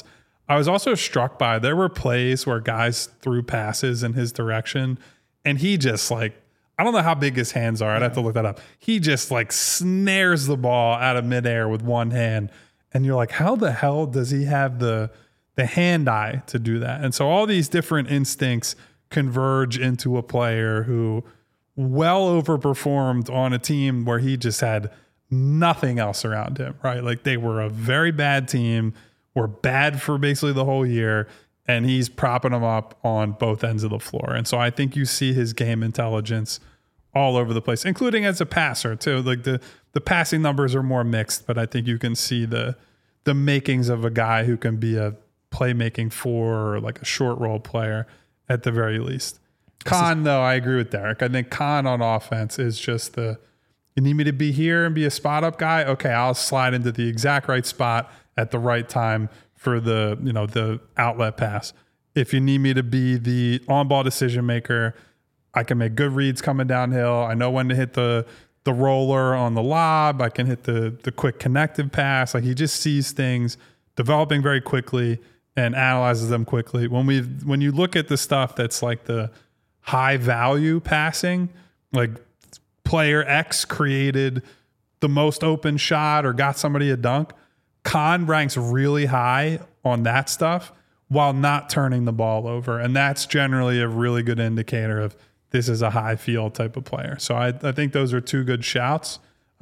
Speaker 2: I was also struck by there were plays where guys threw passes in his direction, and he just like, I don't know how big his hands are. I'd have to look that up. He just like snares the ball out of midair with one hand. And you're like, how the hell does he have the hand eye to do that? And so all these different instincts converge into a player who well overperformed on a team where he just had nothing else around him, right? Like they were a very bad team, were bad for basically the whole year, and he's propping them up on both ends of the floor. And so I think you see his game intelligence all over the place, including as a passer too. Like the passing numbers are more mixed, but I think you can see the makings of a guy who can be a playmaking four or like a short role player at the very least. Khan, though, I agree with Derek. I think Khan on offense is just you need me to be here and be a spot up guy? Okay, I'll slide into the exact right spot at the right time for the outlet pass. If you need me to be the on-ball decision maker, I can make good reads coming downhill. I know when to hit the roller on the lob. I can hit the quick connective pass. Like he just sees things developing very quickly and analyzes them quickly. When you look at the stuff that's like the high value passing, like player X created the most open shot or got somebody a dunk, Khan ranks really high on that stuff while not turning the ball over. And that's generally a really good indicator of this is a high field type of player. So I think those are two good shouts.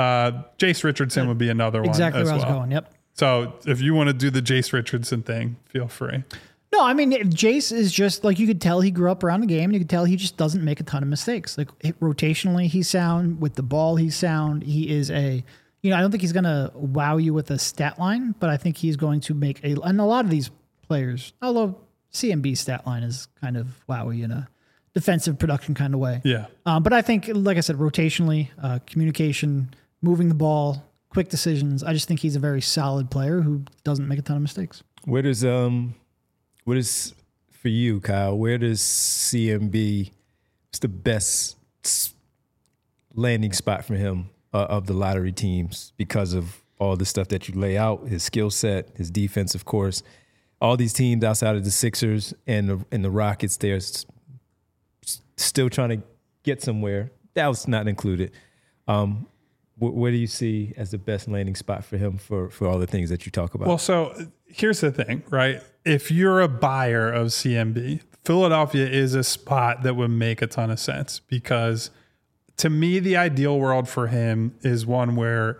Speaker 2: Jace Richardson would be another one.
Speaker 3: Exactly
Speaker 2: as
Speaker 3: where
Speaker 2: well.
Speaker 3: I was going. Yep.
Speaker 2: So if you want to do the Jace Richardson thing, feel free.
Speaker 3: No, I mean, Jace is just like, you could tell he grew up around the game, and you could tell he just doesn't make a ton of mistakes. Like rotationally, he's sound. With the ball, he's sound. He is I don't think he's going to wow you with a stat line, but I think he's going to make and a lot of these players, although CMB's stat line is kind of wowy in a defensive production kind of way.
Speaker 2: Yeah.
Speaker 3: But I think, like I said, rotationally, communication, moving the ball, quick decisions. I just think he's a very solid player who doesn't make a ton of mistakes.
Speaker 1: What is for you, Kyle? Where does CMB? What's the best landing spot for him of the lottery teams because of all the stuff that you lay out? His skill set, his defense, of course. All these teams outside of the Sixers and the Rockets, they're still trying to get somewhere. That was not included. Where do you see as the best landing spot for him for all the things that you talk about?
Speaker 2: Well, so here's the thing, right? If you're a buyer of CMB, Philadelphia is a spot that would make a ton of sense, because to me, the ideal world for him is one where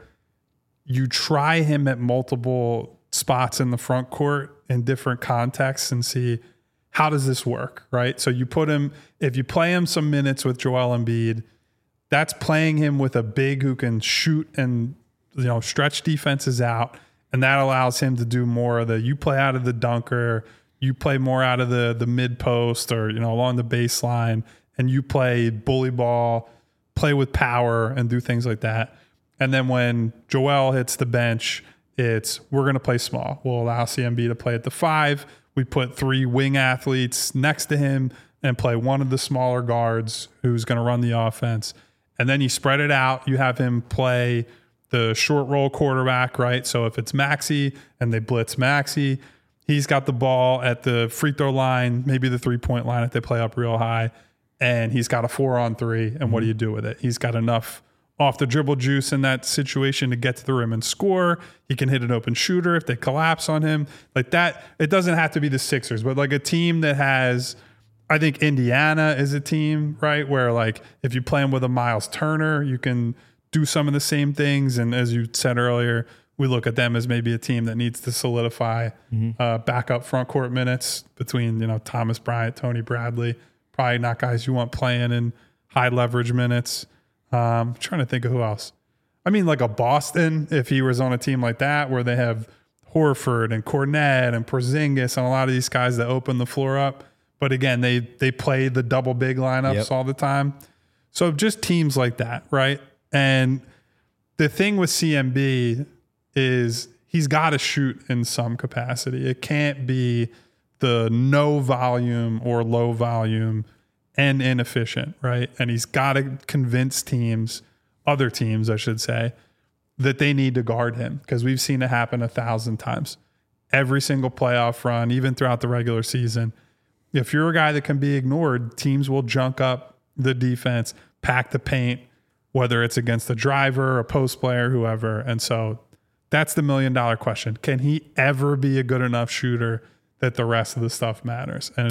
Speaker 2: you try him at multiple spots in the front court in different contexts and see, how does this work, right? So you put him, if you play him some minutes with Joel Embiid, that's playing him with a big who can shoot and stretch defenses out, and that allows him to do more of you play out of the dunker, you play more out of the mid post or along the baseline, and you play bully ball, play with power, and do things like that. And then when Joel hits the bench, we're going to play small. We'll allow CMB to play at the 5. We put 3 wing athletes next to him and play one of the smaller guards who's going to run the offense. And then you spread it out. You have him play the short roll quarterback, right? So if it's Maxey and they blitz Maxey, he's got the ball at the free throw line, maybe the 3-point line if they play up real high, and he's got a 4-on-3. And what do you do with it? He's got enough off the dribble juice in that situation to get to the rim and score. He can hit an open shooter if they collapse on him. Like that, it doesn't have to be the Sixers, but like a team that has, I think Indiana is a team, right? Where like if you play him with a Miles Turner, you can do some of the same things. And as you said earlier, we look at them as maybe a team that needs to solidify backup front court minutes between, Thomas Bryant, Tony Bradley, probably not guys you want playing in high leverage minutes. I'm trying to think of who else. I mean, like a Boston, if he was on a team like that where they have Horford and Kornet and Porzingis and a lot of these guys that open the floor up. But again, they play the double big lineups all the time. So just teams like that, right? And the thing with CMB is he's got to shoot in some capacity. It can't be the no volume or low volume and inefficient, right? And he's got to convince other teams, I should say, that they need to guard him, because we've seen it happen 1,000 times. every single playoff run, even throughout the regular season. If you're a guy that can be ignored, teams will junk up the defense, pack the paint, whether it's against a driver, a post player, whoever. And so that's the $1 million question. Can he ever be a good enough shooter that the rest of the stuff matters? And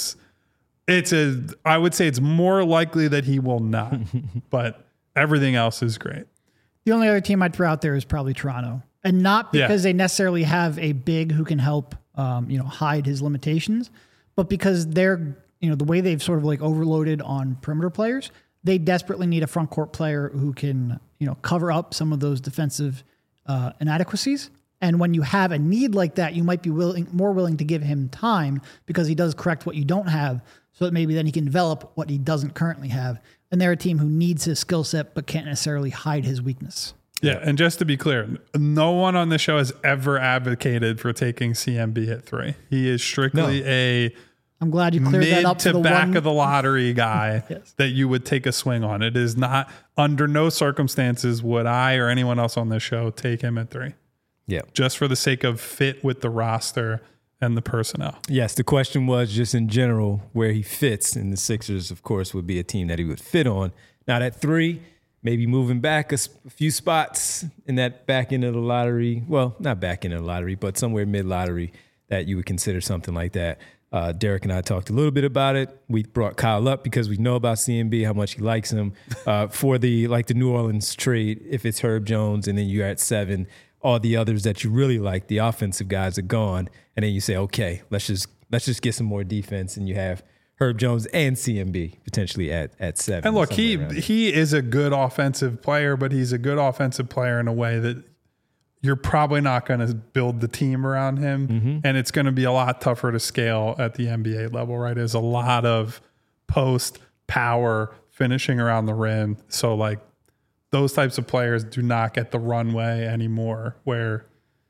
Speaker 2: I would say it's more likely that he will not, but everything else is great.
Speaker 3: The only other team I'd throw out there is probably Toronto, and not because they necessarily have a big who can help, hide his limitations, but because they're, the way they've sort of like overloaded on perimeter players, they desperately need a front court player who can, cover up some of those defensive inadequacies. And when you have a need like that, you might be more willing to give him time because he does correct what you don't have, so that maybe then he can develop what he doesn't currently have. And they're a team who needs his skill set but can't necessarily hide his weakness.
Speaker 2: Yeah, and just to be clear, no one on the show has ever advocated for taking CMB at 3. He is strictly
Speaker 3: I'm glad you cleared that up
Speaker 2: to the back of the lottery guy that you would take a swing on. It is not, under no circumstances would I or anyone else on this show take him at 3.
Speaker 1: Yeah.
Speaker 2: Just for the sake of fit with the roster and the personnel.
Speaker 1: Yes, the question was just in general where he fits, and the Sixers, of course, would be a team that he would fit on. Not at 3, maybe moving back a few spots in that back end of the lottery. Well, not back end of the lottery, but somewhere mid-lottery that you would consider something like that. Derek and I talked a little bit about it. We brought Kyle up because we know about CMB, how much he likes him. For the New Orleans trade, if it's Herb Jones and then you're at 7, all the others that you really like, the offensive guys are gone. And then you say, okay, let's just get some more defense. And you have Herb Jones and CMB potentially at 7.
Speaker 2: And look, he is a good offensive player, but he's a good offensive player in a way that you're probably not going to build the team around him. Mm-hmm. And it's going to be a lot tougher to scale at the NBA level, right? There's a lot of post power finishing around the rim. So those types of players do not get the runway anymore where,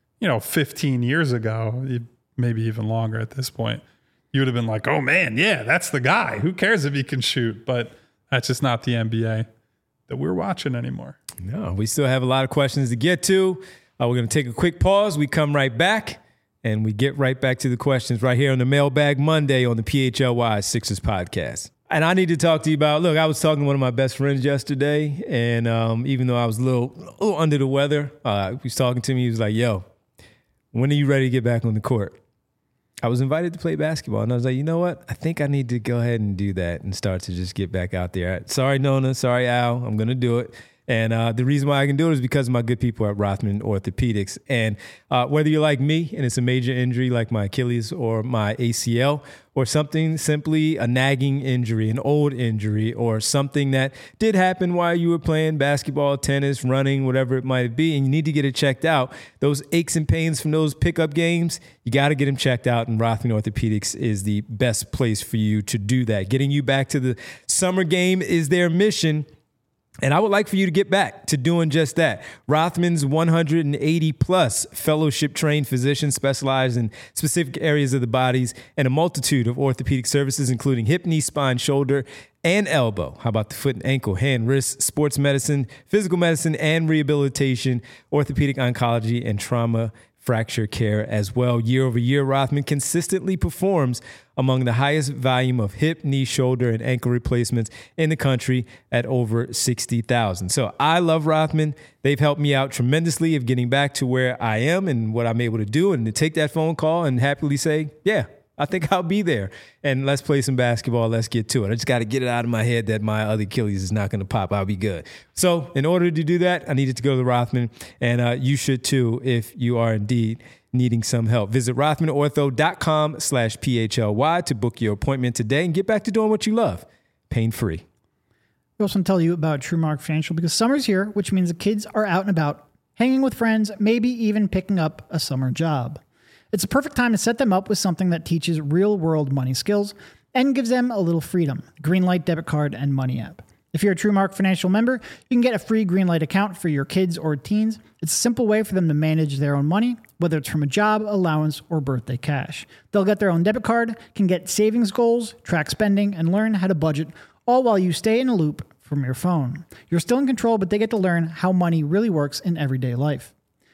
Speaker 2: 15 years ago, maybe even longer at this point, you would have been like, oh man, yeah, that's the guy. Who cares if he can shoot? But that's just not the NBA that we're watching anymore.
Speaker 1: No, we still have a lot of questions to get to. We're going to take a quick pause. We come right back, and we get right back to the questions right here on the Mailbag Monday on the PHLY Sixers podcast. And I need to talk to you about, look, I was talking to one of my best friends yesterday, and even though I was a little under the weather, he was talking to me. He was like, yo, when are you ready to get back on the court? I was invited to play basketball, and I was like, you know what? I think I need to go ahead and do that and start to just get back out there. Sorry, Nona. Sorry, Al. I'm going to do it. And the reason why I can do it is because of my good people at Rothman Orthopedics. And whether you're like me and it's a major injury like my Achilles or my ACL, or something simply a nagging injury, an old injury, or something that did happen while you were playing basketball, tennis, running, whatever it might be, and you need to get it checked out, those aches and pains from those pickup games, you got to get them checked out, and Rothman Orthopedics is the best place for you to do that. Getting you back to the summer game is their mission. And I would like for you to get back to doing just that. Rothman's 180-plus fellowship-trained physicians specialize in specific areas of the bodies and a multitude of orthopedic services, including hip, knee, spine, shoulder, and elbow. How about the foot and ankle, hand, wrist, sports medicine, physical medicine, and rehabilitation, orthopedic oncology, and trauma fracture care as well. Year over year, Rothman consistently performs among the highest volume of hip, knee, shoulder, and ankle replacements in the country at over 60,000. So I love Rothman. They've helped me out tremendously of getting back to where I am and what I'm able to do, and to take that phone call and happily say, yeah, I think I'll be there. And let's play some basketball. Let's get to it. I just got to get it out of my head that my other Achilles is not going to pop. I'll be good. So in order to do that, I needed to go to Rothman. And you should too if you are indeed needing some help. Visit rothmanortho.com/PHLY to book your appointment today and get back to doing what you love. Pain-free.
Speaker 3: We also want to tell you about TrueMark Financial because summer's here, which means the kids are out and about, hanging with friends, maybe even picking up a summer job. It's a perfect time to set them up with something that teaches real-world money skills and gives them a little freedom. Greenlight debit card and money app. If you're a TrueMark Financial member, you can get a free Greenlight account for your kids or teens. It's a simple way for them to manage their own money, whether it's from a job, allowance, or birthday cash. They'll get their own debit card, can get savings goals, track spending, and learn how to budget, all while you stay in a loop from your phone. You're still in control, but they get to learn how money really works in everyday life.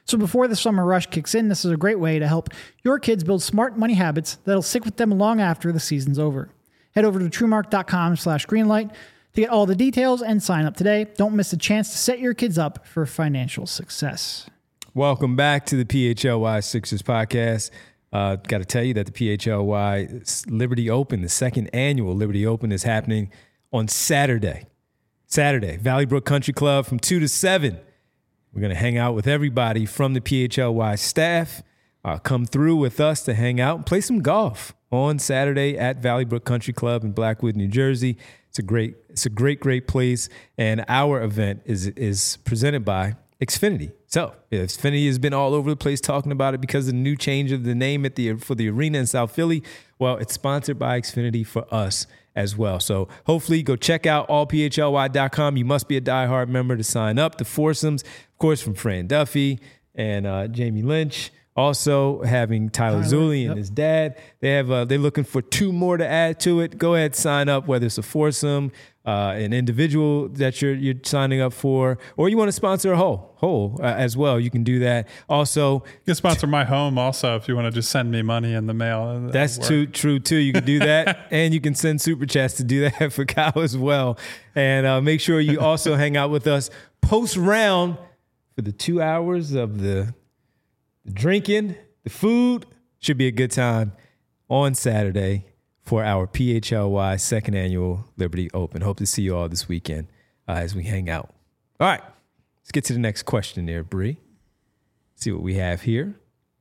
Speaker 3: So before the summer rush kicks in, this is a great way to help your kids build smart money habits that'll stick with them long after the season's over. Head over to truemark.com/greenlight to get all the details and sign up today. Don't miss a chance to set your kids up for financial success.
Speaker 1: Welcome back to the PHLY Sixers podcast. Got to tell you that the PHLY Liberty Open, the second annual Liberty Open, is happening on Saturday. Valley Brook Country Club from 2 to 7. We're going to hang out with everybody from the PHLY staff. Come through with us to hang out and play some golf on Saturday at Valley Brook Country Club in Blackwood, New Jersey. It's a great place. And our event is presented by Xfinity. So Xfinity has been all over the place talking about it because of the new change of the name for the arena in South Philly. Well, it's sponsored by Xfinity for us as well. So hopefully go check out allphly.com. You must be a diehard member to sign up. The foursomes, of course, from Fran Duffy and Jamie Lynch. Also having Tyler Zulli and his dad. They're looking for 2 more to add to it. Go ahead, sign up, whether it's a foursome, an individual that you're signing up for, or you want to sponsor a whole as well. You can do that. Also,
Speaker 2: you can sponsor my home also if you want to just send me money in the mail.
Speaker 1: That's true too. You can do that, and you can send super chats to do that for Kyle as well. And make sure you also hang out with us post round for the 2 hours of the drinking, the food. Should be a good time on Saturday for our PHLY second annual Liberty Open. Hope to see you all this weekend as we hang out. All right, let's get to the next question there, Bree. See what we have here.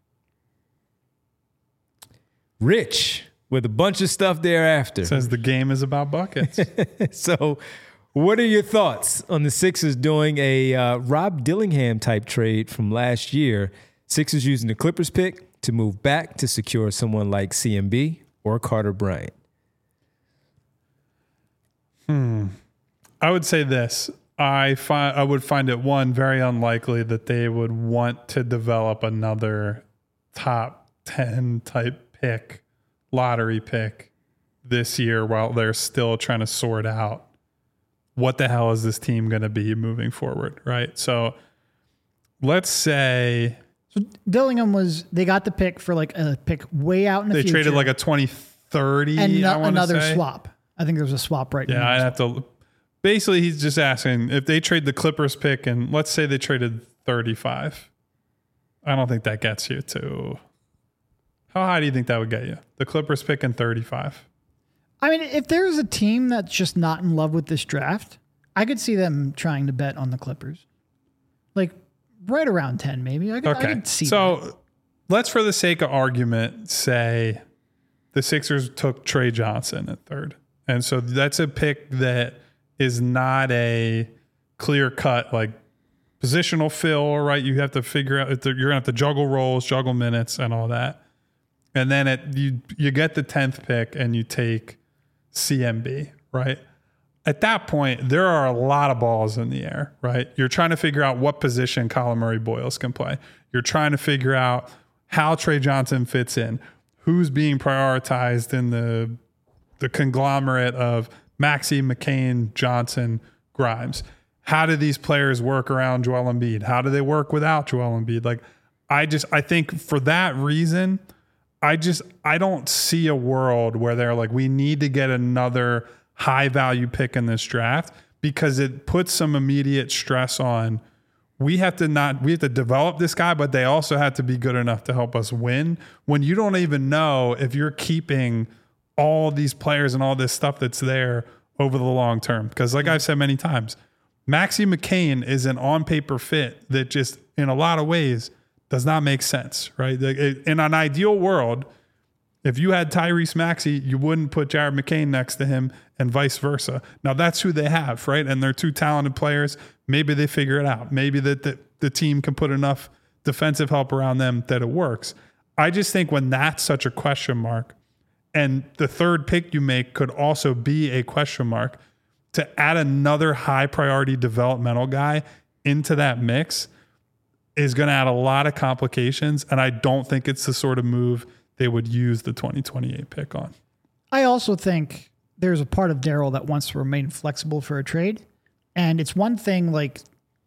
Speaker 1: Rich with a bunch of stuff thereafter.
Speaker 2: Says the game is about buckets.
Speaker 1: So what are your thoughts on the Sixers doing a Rob Dillingham type trade from last year? Sixers using the Clippers pick to move back to secure someone like CMB or Carter Bryant.
Speaker 2: I would say this. I would find it, one, very unlikely that they would want to develop another top 10 type pick, lottery pick this year while they're still trying to sort out what the hell is this team going to be moving forward, right? So let's say...
Speaker 3: So Dillingham they got the pick for like a pick way out in the future.
Speaker 2: They traded like a 2030
Speaker 3: and another swap. I think there's a swap right now.
Speaker 2: Yeah, I'd have to. Basically, he's just asking if they trade the Clippers pick and let's say they traded 35. I don't think that gets you to. How high do you think that would get you? The Clippers pick and 35.
Speaker 3: I mean, if there's a team that's just not in love with this draft, I could see them trying to bet on the Clippers. Like, right around 10, maybe. I could see that.
Speaker 2: Let's, for the sake of argument, say the Sixers took Trey Johnson at 3rd. And so that's a pick that is not a clear-cut, like, positional fill, right? You have to figure out, you're going to have to juggle roles, juggle minutes, and all that. And then you get the 10th pick and you take CMB, right? At that point, there are a lot of balls in the air, right? You're trying to figure out what position Colin Murray-Boyles can play. You're trying to figure out how Trey Johnson fits in, who's being prioritized in the conglomerate of Maxey, McCain, Johnson, Grimes. How do these players work around Joel Embiid? How do they work without Joel Embiid? Like, I think for that reason, I don't see a world where they're like, we need to get another high value pick in this draft, because it puts some immediate stress on. We have to develop this guy, but they also have to be good enough to help us win, when you don't even know if you're keeping all these players and all this stuff that's there over the long term. Because like I've said many times, Maxey McCain is an on paper fit that just in a lot of ways does not make sense, right? In an ideal world, if you had Tyrese Maxey, you wouldn't put Jared McCain next to him and vice versa. Now that's who they have, right? And they're two talented players. Maybe they figure it out. Maybe that the team can put enough defensive help around them that it works. I just think when that's such a question mark, and the 3rd pick you make could also be a question mark, to add another high priority developmental guy into that mix is going to add a lot of complications. And I don't think it's the sort of move they would use the 2028 pick on.
Speaker 3: I also think there's a part of Daryl that wants to remain flexible for a trade. And it's one thing, like,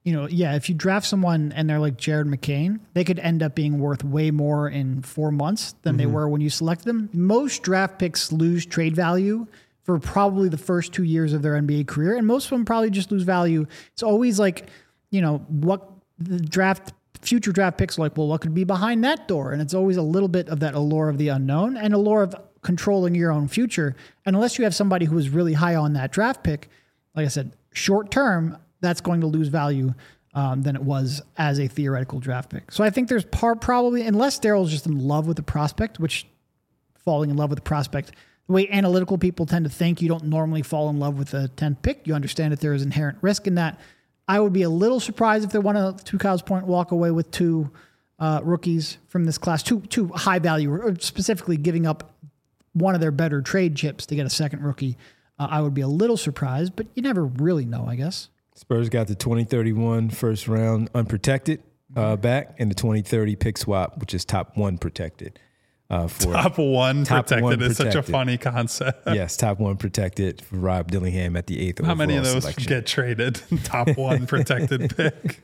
Speaker 3: if you draft someone and they're like Jared McCain, they could end up being worth way more in 4 months than they were when you selected them. Most draft picks lose trade value for probably the first 2 years of their NBA career, and most of them probably just lose value. It's always like, what the future draft picks are like, well, what could be behind that door? And it's always a little bit of that allure of the unknown and allure of controlling your own future. And unless you have somebody who is really high on that draft pick, like I said, short term, that's going to lose value than it was as a theoretical draft pick. So I think there's probably, unless Daryl's just in love with the prospect, which falling in love with the prospect, the way analytical people tend to think, you don't normally fall in love with the 10th pick. You understand that there is inherent risk in that. I would be a little surprised if they want to Kyle's point, walk away with 2 rookies from this class, two high value, or specifically giving up one of their better trade chips to get a second rookie. I would be a little surprised, but you never really know, I guess.
Speaker 1: Spurs got the 2031 first round unprotected back, and the 2030 pick swap, which is top 1 protected.
Speaker 2: Top one protected is such a funny concept.
Speaker 1: Yes, top 1 protected for Rob Dillingham at the 8th overall.
Speaker 2: How many of those
Speaker 1: selection.
Speaker 2: Get traded? Top 1 protected pick.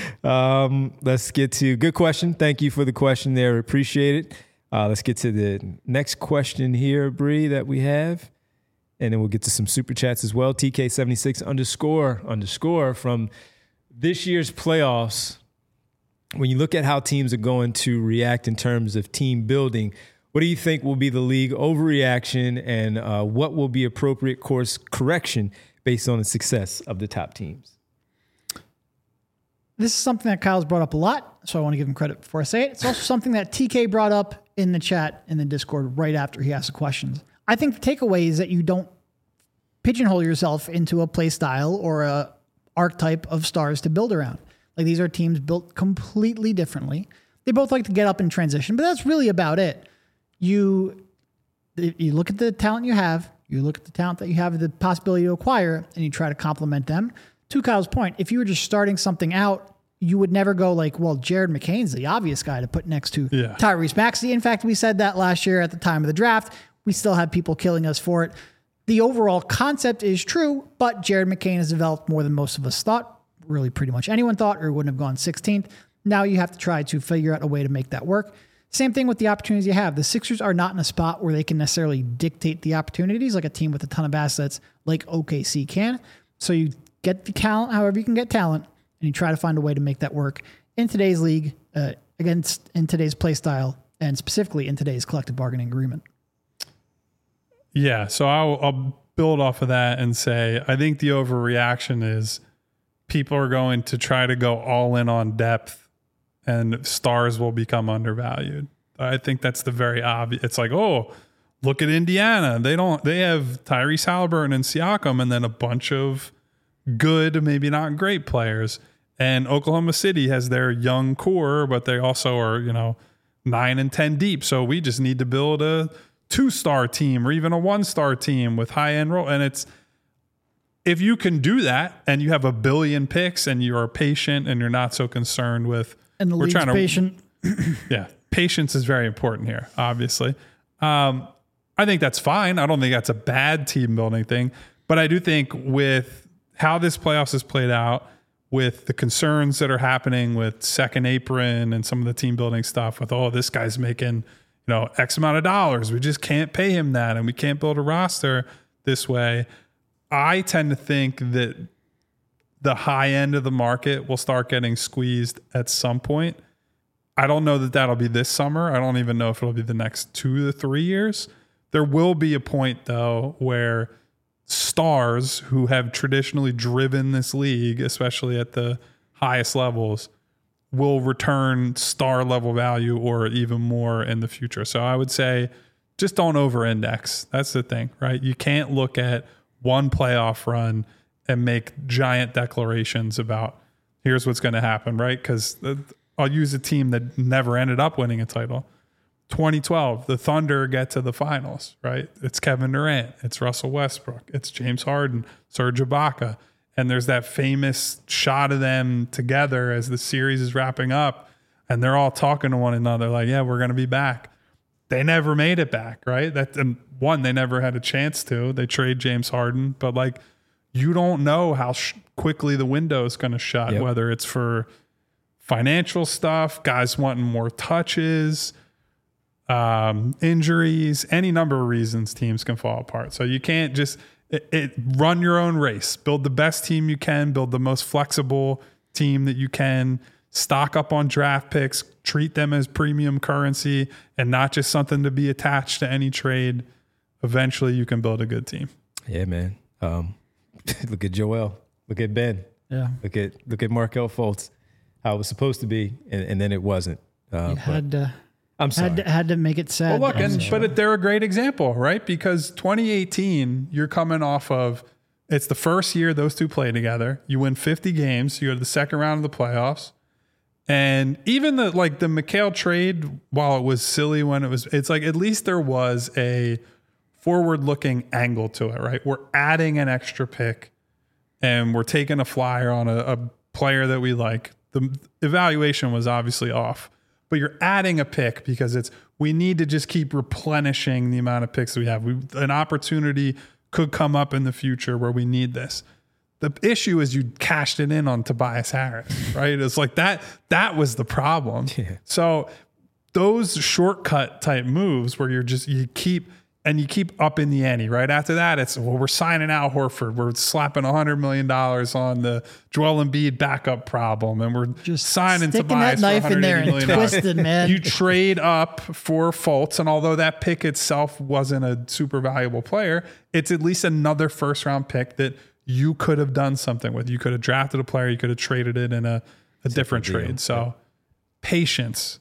Speaker 1: Let's get to good question. Thank you for the question there. Appreciate it. Let's get to the next question here, Bree, that we have. And then we'll get to some super chats as well. TK76 _ from this year's playoffs. When you look at how teams are going to react in terms of team building, what do you think will be the league overreaction, and what will be appropriate course correction based on the success of the top teams?
Speaker 3: This is something that Kyle's brought up a lot, so I want to give him credit before I say it. It's also something that TK brought up in the chat in the Discord right after he asked the questions. I think the takeaway is that you don't pigeonhole yourself into a play style or a archetype of stars to build around. Like, these are teams built completely differently. They both like to get up and transition, but that's really about it. You look at the talent you have, you look at the talent that you have the possibility to acquire, and you try to complement them. To Kyle's point, if you were just starting something out, you would never go like, well, Jared McCain's the obvious guy to put next to Tyrese Maxey. In fact, we said that last year at the time of the draft. We still had people killing us for it. The overall concept is true, but Jared McCain has developed more than most of us thought. Really pretty much anyone thought, or wouldn't have gone 16th. Now you have to try to figure out a way to make that work. Same thing with the opportunities you have. The Sixers are not in a spot where they can necessarily dictate the opportunities like a team with a ton of assets like OKC can. So you get the talent however you can get talent, and you try to find a way to make that work in today's league, in today's play style, and specifically in today's collective bargaining agreement.
Speaker 2: Yeah, so I'll build off of that and say I think the overreaction is people are going to try to go all in on depth, and stars will become undervalued. I think that's the very obvious. It's like, oh, look at Indiana. They have Tyrese Halliburton and Siakam, and then a bunch of good, maybe not great players. And Oklahoma City has their young core, but they also are, 9 and 10 deep. So we just need to build a 2-star team or even a 1-star team with high-end role. And it's, if you can do that and you have a billion picks and you are patient and you're not so concerned with,
Speaker 3: and the league's patient.
Speaker 2: Yeah. Patience is very important here, obviously. I think that's fine. I don't think that's a bad team building thing, but I do think with how this playoffs has played out, with the concerns that are happening with second apron and some of the team building stuff with, oh, this guy's making, X amount of dollars. We just can't pay him that. And we can't build a roster this way. I tend to think that the high end of the market will start getting squeezed at some point. I don't know that that'll be this summer. I don't even know if it'll be the next 2 to 3 years. There will be a point, though, where stars who have traditionally driven this league, especially at the highest levels, will return star level value or even more in the future. So I would say just don't over-index. That's the thing, right? You can't look at one playoff run and make giant declarations about here's what's going to happen, right? Because I'll use a team that never ended up winning a title. 2012, the Thunder get to the finals, right? It's Kevin Durant, it's Russell Westbrook, it's James Harden, Serge Ibaka. And there's that famous shot of them together as the series is wrapping up, and they're all talking to one another like, yeah, we're going to be back. They never made it back, right? And one, they never had a chance to. They trade James Harden, but you don't know how quickly the window is going to shut, whether it's for financial stuff, guys wanting more touches, injuries, any number of reasons teams can fall apart. So you can't just run your own race, build the best team you can, build the most flexible team that you can, stock up on draft picks, treat them as premium currency and not just something to be attached to any trade. Eventually you can build a good team.
Speaker 1: Yeah, man. Look at Joel. Look at Ben.
Speaker 3: Yeah.
Speaker 1: Look at Markelle Fultz. How it was supposed to be, and then it wasn't. I'm sorry.
Speaker 3: Had to make it sad.
Speaker 2: Well, look, but they're a great example, right? Because 2018, you're coming off of, it's the first year those two play together. You win 50 games. You go to the second round of the playoffs. And even the Mikal trade, while it was silly it's like at least there was a forward-looking angle to it, right? We're adding an extra pick and we're taking a flyer on a player that we like. The evaluation was obviously off, but you're adding a pick because we need to just keep replenishing the amount of picks that we have. An opportunity could come up in the future where we need this. The issue is you cashed it in on Tobias Harris, right? It's like that was the problem. Yeah. So those shortcut type moves where you keep upping the ante, right? After that, we're signing Al Horford. We're slapping $100 million on the Joel Embiid backup problem. And we're just signing Tobias
Speaker 3: that knife in there and twisted, man.
Speaker 2: You trade up for Fultz. And although that pick itself wasn't a super valuable player, it's at least another first round pick that you could have done something with. You could have drafted a player. You could have traded it in a different trade. So patience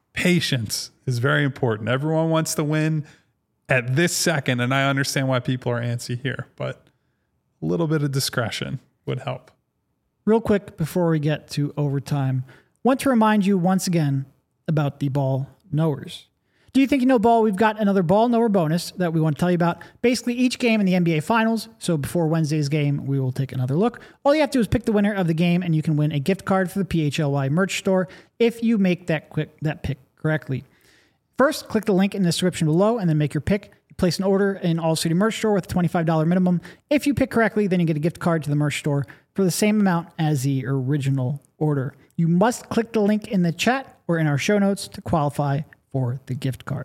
Speaker 2: is very important. Everyone wants to win at this second, and I understand why people are antsy here, but a little bit of discretion would help.
Speaker 3: Real quick before we get to overtime, want to remind you once again about the ball knowers. Do you think you know ball? We've got another ball knower bonus that we want to tell you about. Basically, each game in the NBA Finals, so before Wednesday's game, we will take another look. All you have to do is pick the winner of the game, and you can win a gift card for the PHLY merch store if you make that pick correctly. First, click the link in the description below and then make your pick. You place an order in All City Merch Store with a $25 minimum. If you pick correctly, then you get a gift card to the merch store for the same amount as the original order. You must click the link in the chat or in our show notes to qualify for the gift card.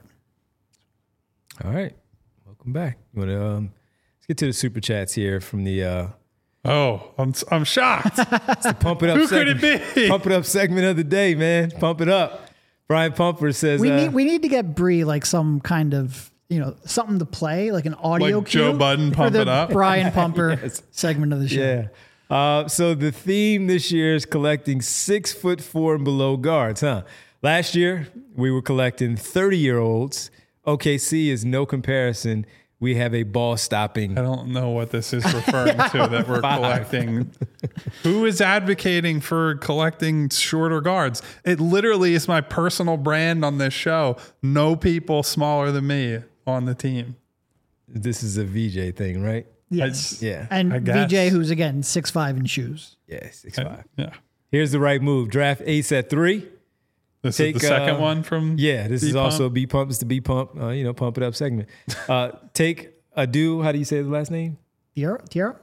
Speaker 1: All right. Welcome back. You want to let's get to the super chats here from the
Speaker 2: I'm shocked.
Speaker 1: It's the Pump It Up
Speaker 2: Who
Speaker 1: segment.
Speaker 2: could it be?
Speaker 1: Pump It Up segment of the day, man. Pump it up. Brian Pumper says
Speaker 3: we need to get Bree like some kind of, something to play, like an audio
Speaker 2: like
Speaker 3: cue.
Speaker 2: Joe Budden Pump It Up.
Speaker 3: Brian Pumper segment of the show.
Speaker 1: Yeah. So the theme this year is collecting 6'4" and below guards, huh? Last year we were collecting 30-year-olds. OKC is no comparison. We have a ball stopping.
Speaker 2: I don't know what this is referring to that we're collecting. Who is advocating for collecting shorter guards? It literally is my personal brand on this show. No people smaller than me on the team.
Speaker 1: This is a VJ thing, right?
Speaker 3: Yes.
Speaker 1: Yeah.
Speaker 3: And VJ, who's again 6'5" in shoes.
Speaker 1: Yeah, 6'5".
Speaker 2: Yeah.
Speaker 1: Here's the right move. Draft Ace at 3.
Speaker 2: This is the second one from
Speaker 1: this is also B Pump. It's the B Pump, Pump It Up segment. Take Adu. How do you say the last name?
Speaker 3: Thiero.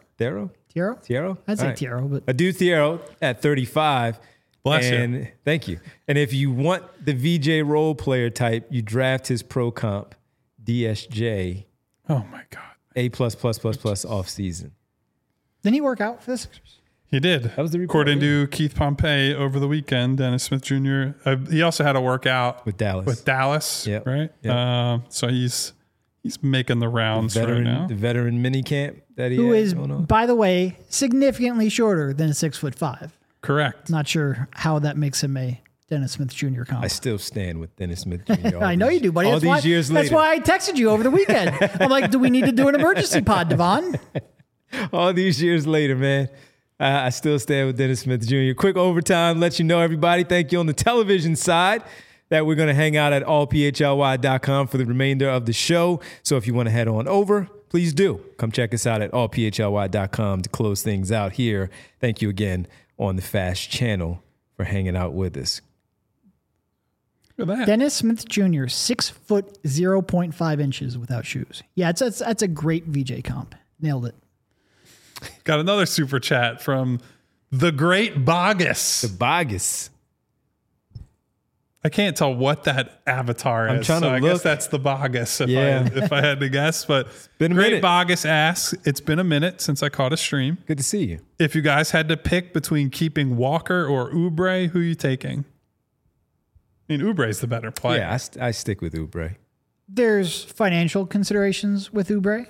Speaker 3: I'd say Thiero, but
Speaker 1: Adu Thiero at 35.
Speaker 2: Bless you.
Speaker 1: Thank you. And if you want the VJ role player type, you draft his pro comp, DSJ.
Speaker 2: Oh my God.
Speaker 1: A+++ off season.
Speaker 3: Didn't he work out for the Sixers?
Speaker 2: He did.
Speaker 1: That was the report.
Speaker 2: According to Keith Pompey over the weekend, Dennis Smith Jr. He also had a workout
Speaker 1: with Dallas.
Speaker 2: Yep. Right. Yep. So he's making the rounds right now.
Speaker 1: The veteran mini camp that he
Speaker 3: who is, by the way, significantly shorter than a 6'5".
Speaker 2: Correct.
Speaker 3: Not sure how that makes him a Dennis Smith Jr. comp.
Speaker 1: I still stand with Dennis Smith Jr.
Speaker 3: I know you do, buddy.
Speaker 1: All these years later.
Speaker 3: That's why I texted you over the weekend. I'm like, do we need to do an emergency pod, Devon?
Speaker 1: All these years later, man. I still stand with Dennis Smith Jr. Quick overtime, let you know, everybody. Thank you on the television side that we're going to hang out at allphly.com for the remainder of the show. So if you want to head on over, please do. Come check us out at allphly.com to close things out here. Thank you again on the Fast Channel for hanging out with us.
Speaker 2: Look at that.
Speaker 3: Dennis Smith Jr., 6 foot 0.5 inches without shoes. Yeah, that's a great VJ comp. Nailed it.
Speaker 2: Got another super chat from the Great Bogus.
Speaker 1: The Bogus.
Speaker 2: I can't tell what that avatar is. I guess that's the Bogus if I had to guess. But Great Bogus asks, it's been a minute since I caught a stream.
Speaker 1: Good to see you.
Speaker 2: If you guys had to pick between keeping Walker or Oubre, who are you taking? I mean, Oubre's the better player.
Speaker 1: Yeah, I stick with Oubre.
Speaker 3: There's financial considerations with Oubre.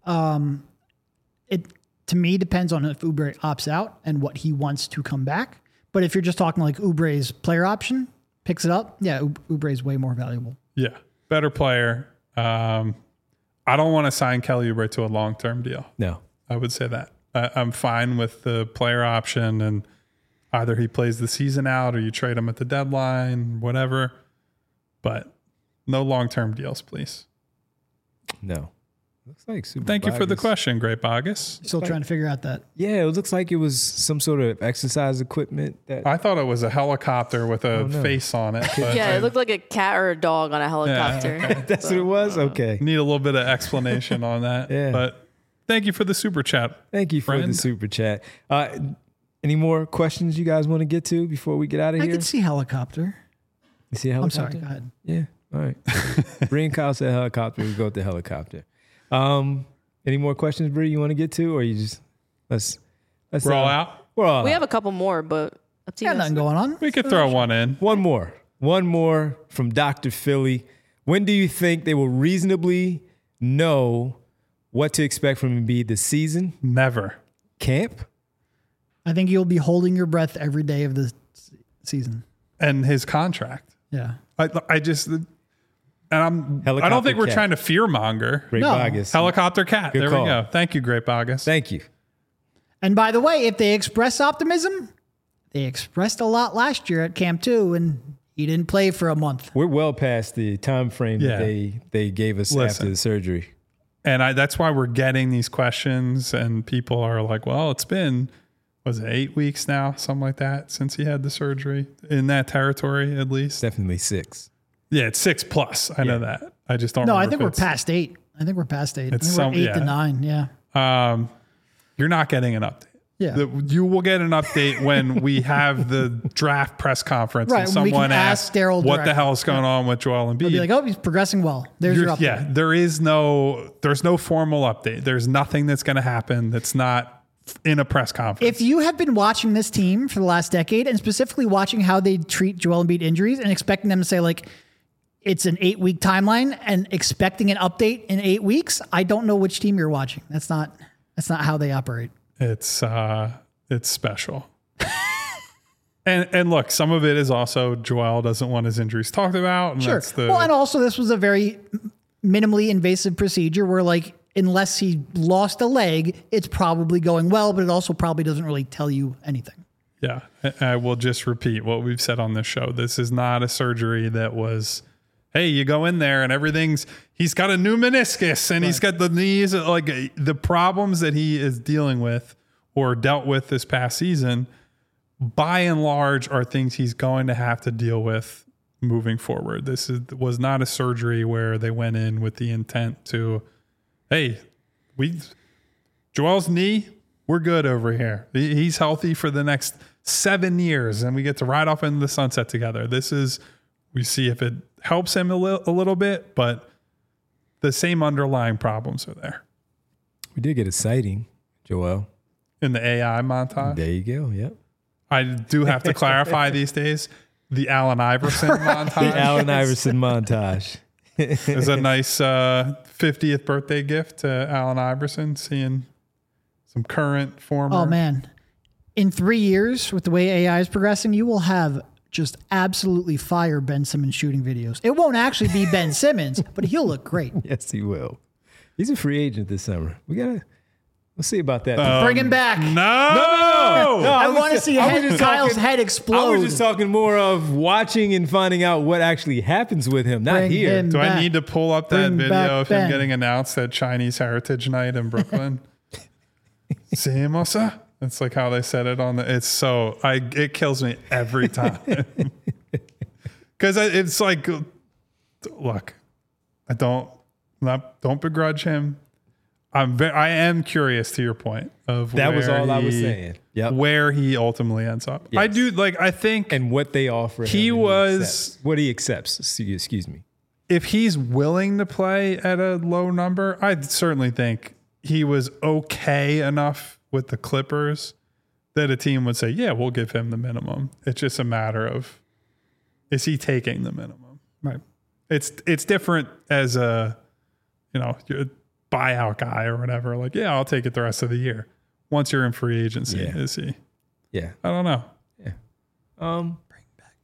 Speaker 3: It, to me, depends on if Oubre opts out and what he wants to come back. But if you're just talking like Oubre's player option, picks it up, yeah, Oubre is way more valuable.
Speaker 2: Yeah, better player. I don't want to sign Kelly Oubre to a long-term deal.
Speaker 1: No.
Speaker 2: I would say that. I'm fine with the player option, and either he plays the season out or you trade him at the deadline, whatever. But no long-term deals, please.
Speaker 1: No. Looks like super.
Speaker 2: Thank you for the question, Great Bogus.
Speaker 3: Still trying to figure out that.
Speaker 1: Yeah, it looks like it was some sort of exercise equipment.
Speaker 2: I thought it was a helicopter with a face on it.
Speaker 4: Yeah, it looked like a cat or a dog on a helicopter.
Speaker 2: Yeah, okay.
Speaker 1: That's what it was? Okay.
Speaker 2: Need a little bit of explanation on that.
Speaker 1: Yeah.
Speaker 2: But thank you for the super chat.
Speaker 1: Thank you for the super chat. Any more questions you guys want to get to before we get out of here?
Speaker 3: I can see helicopter.
Speaker 1: You see a helicopter?
Speaker 3: I'm sorry, go ahead.
Speaker 1: Yeah, all right. Brian Kyle said helicopter. We go with the helicopter. Any more questions, Bree, you want to get to, or you just let's
Speaker 2: we're all out?
Speaker 1: We're all
Speaker 4: we
Speaker 1: out.
Speaker 4: have a couple more, but up to you.
Speaker 3: Got nothing going on.
Speaker 2: We could throw one in.
Speaker 1: One more from Dr. Philly. When do you think they will reasonably know what to expect from Embiid this season?
Speaker 2: Never.
Speaker 1: Camp?
Speaker 3: I think you'll be holding your breath every day of the season.
Speaker 2: And his contract.
Speaker 3: Yeah.
Speaker 2: I just... And I don't think we're trying to fearmonger.
Speaker 1: Great Bogus.
Speaker 2: Helicopter cat.
Speaker 1: Good
Speaker 2: there
Speaker 1: call.
Speaker 2: we go. Thank you, Great Bogus.
Speaker 1: Thank you.
Speaker 3: And by the way, if they express optimism, they expressed a lot last year at Camp 2, and he didn't play for a month.
Speaker 1: We're well past the time frame that they gave us after the surgery.
Speaker 2: And that's why we're getting these questions, and people are like, well, it's been, was it 8 weeks now? Something like that since he had the surgery in that territory, at least.
Speaker 1: Definitely 6.
Speaker 2: Yeah, it's 6+. I know that. I just don't.
Speaker 3: No, I think we're past 8. I think we're past 8.
Speaker 2: It's
Speaker 3: we're 8 to 9. Yeah.
Speaker 2: You're not getting an update.
Speaker 3: Yeah.
Speaker 2: You will get an update when we have the draft press conference
Speaker 3: Right,
Speaker 2: and
Speaker 3: when we can
Speaker 2: someone asks
Speaker 3: ask Daryl
Speaker 2: what the
Speaker 3: directly.
Speaker 2: hell is going on with Joel Embiid.
Speaker 3: They'll be like, oh, he's progressing well. There's your update.
Speaker 2: Yeah, there's no formal update. There's nothing that's going to happen that's not in a press conference.
Speaker 3: If you have been watching this team for the last decade and specifically watching how they treat Joel Embiid injuries and expecting them to say like, it's an 8-week timeline and expecting an update in 8 weeks, I don't know which team you're watching. That's not how they operate.
Speaker 2: It's special. and look, some of it is also Joel doesn't want his injuries talked about. And
Speaker 3: Sure. And also this was a very minimally invasive procedure where like, unless he lost a leg, it's probably going well, but it also probably doesn't really tell you anything.
Speaker 2: Yeah. I will just repeat what we've said on this show. This is not a surgery that was, hey, you go in there and he's got a new meniscus and he's got the knees, like the problems that he is dealing with or dealt with this past season, by and large, are things he's going to have to deal with moving forward. This was not a surgery where they went in with the intent to, hey, Joel's knee, we're good over here. He's healthy for the next 7 years and we get to ride off into the sunset together. We see if it helps him a little bit, but the same underlying problems are there.
Speaker 1: We did get a sighting, Joel.
Speaker 2: In the AI montage?
Speaker 1: There you go, yep.
Speaker 2: I do have to clarify these days, the Allen Iverson montage.
Speaker 1: The Allen Iverson montage.
Speaker 2: It's a nice 50th birthday gift to Allen Iverson, seeing some current former.
Speaker 3: Oh, man. In 3 years, with the way AI is progressing, you will have just absolutely fire Ben Simmons shooting videos. It won't actually be Ben Simmons, but he'll look great.
Speaker 1: Yes, he will. He's a free agent this summer. We'll see about that.
Speaker 3: Bring him back.
Speaker 2: No.
Speaker 3: I want to see Kyle's head explode.
Speaker 1: I was just talking more of watching and finding out what actually happens with him, not here.
Speaker 2: Do I need to pull up that video of him getting announced at Chinese Heritage Night in Brooklyn? See, Mosa? It's like how they said it on it kills me every time. Because it's like, look, don't begrudge him. I am curious to your point of
Speaker 1: that was all I was saying. Yep.
Speaker 2: Where he ultimately ends up. Yes. I do I think,
Speaker 1: and what they offer. What he accepts. Excuse me.
Speaker 2: If he's willing to play at a low number, I certainly think he was okay enough with the Clippers that a team would say, yeah, we'll give him the minimum. It's just a matter of, is he taking the minimum?
Speaker 3: Right.
Speaker 2: It's different as a, you're a buyout guy or whatever. Like, yeah, I'll take it the rest of the year. Once you're in free agency, is he?
Speaker 1: Yeah.
Speaker 2: I don't know.
Speaker 1: Yeah.
Speaker 3: Bring back